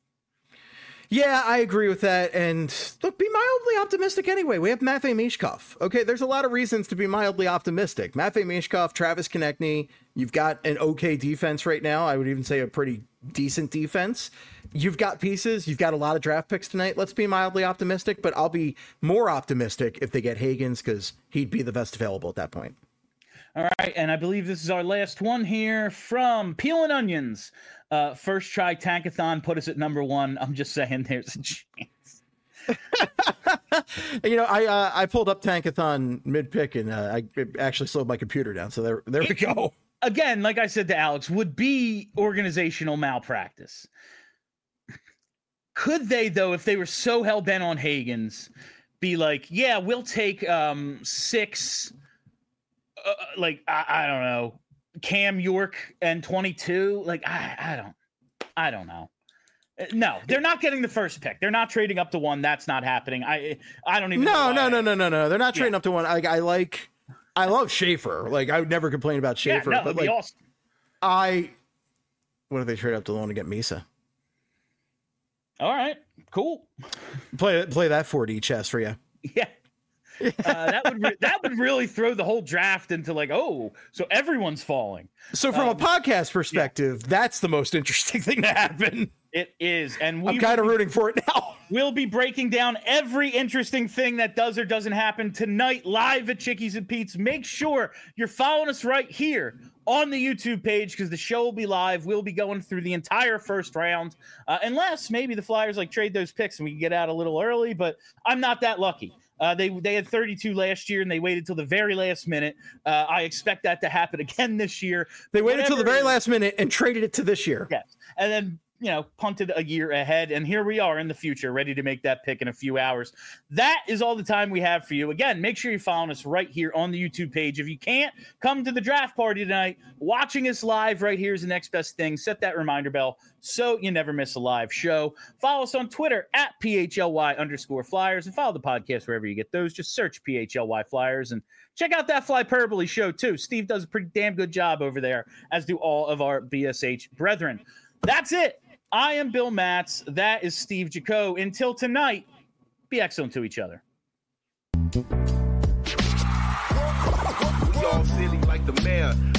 Yeah, I agree with that. And look, be mildly optimistic anyway. We have Matvei Mishkov. Okay, there's a lot of reasons to be mildly optimistic. Matvei Mishkov, Travis Konechny, you've got an okay defense right now. I would even say a pretty decent defense. You've got pieces. You've got a lot of draft picks tonight. Let's be mildly optimistic, but I'll be more optimistic if they get Hagens because he'd be the best available at that point. All right, and I believe this is our last one here from Peel and Onions. Uh, first try Tankathon put us at number one. I'm just saying there's a chance. You know, I uh, I pulled up Tankathon mid pick and uh, I actually slowed my computer down. So there there we go. Again, like I said to Alex, would be organizational malpractice. Could they, though, if they were so hell bent on Hagens, be like, yeah, we'll take um, six, uh, like, I, I don't know, Cam York and twenty-two? Like, I, I don't, I don't know. Uh, No, they're not getting the first pick. They're not trading up to one. That's not happening. I, I don't even. know No, why no, I- no, no, no, no. They're not trading Yeah. up to one. I, I like, I love Schaefer. Like I would never complain about Yeah, Schaefer, no, but it'd be like awesome. I, what if they trade up to the one to get Misa? All right, cool. Play play that four D chess for you. Yeah. Uh, that would re- that would really throw the whole draft into like, oh, so everyone's falling. So from Um, a podcast perspective, that's the most interesting thing to happen. It is, and we I'm kind of will be- rooting for it now. We'll be breaking down every interesting thing that does or doesn't happen tonight live at Chickies and Pete's. Make sure you're following us right here on the YouTube page because the show will be live. We'll be going through the entire first round, uh, unless maybe the Flyers like trade those picks and we can get out a little early. But I'm not that lucky. Uh, they they had thirty-two last year and they waited till the very last minute. Uh, I expect that to happen again this year. They waited till the Whatever very it is- last minute and traded it to this year. Yes, and then you know, punted a year ahead, and here we are in the future, ready to make that pick in a few hours. That is all the time we have for you. Again, make sure you're following us right here on the YouTube page. If you can't come to the draft party tonight, watching us live right here is the next best thing. Set that reminder bell so you never miss a live show. Follow us on Twitter at P H L Y underscore Flyers, and follow the podcast wherever you get those. Just search P H L Y Flyers, and check out that Flyperbole show too. Steve does a pretty damn good job over there, as do all of our B S H brethren. That's it. I am Bill Matz. That is Steve Jaco. Until tonight, be excellent to each other. We all silly like the mayor.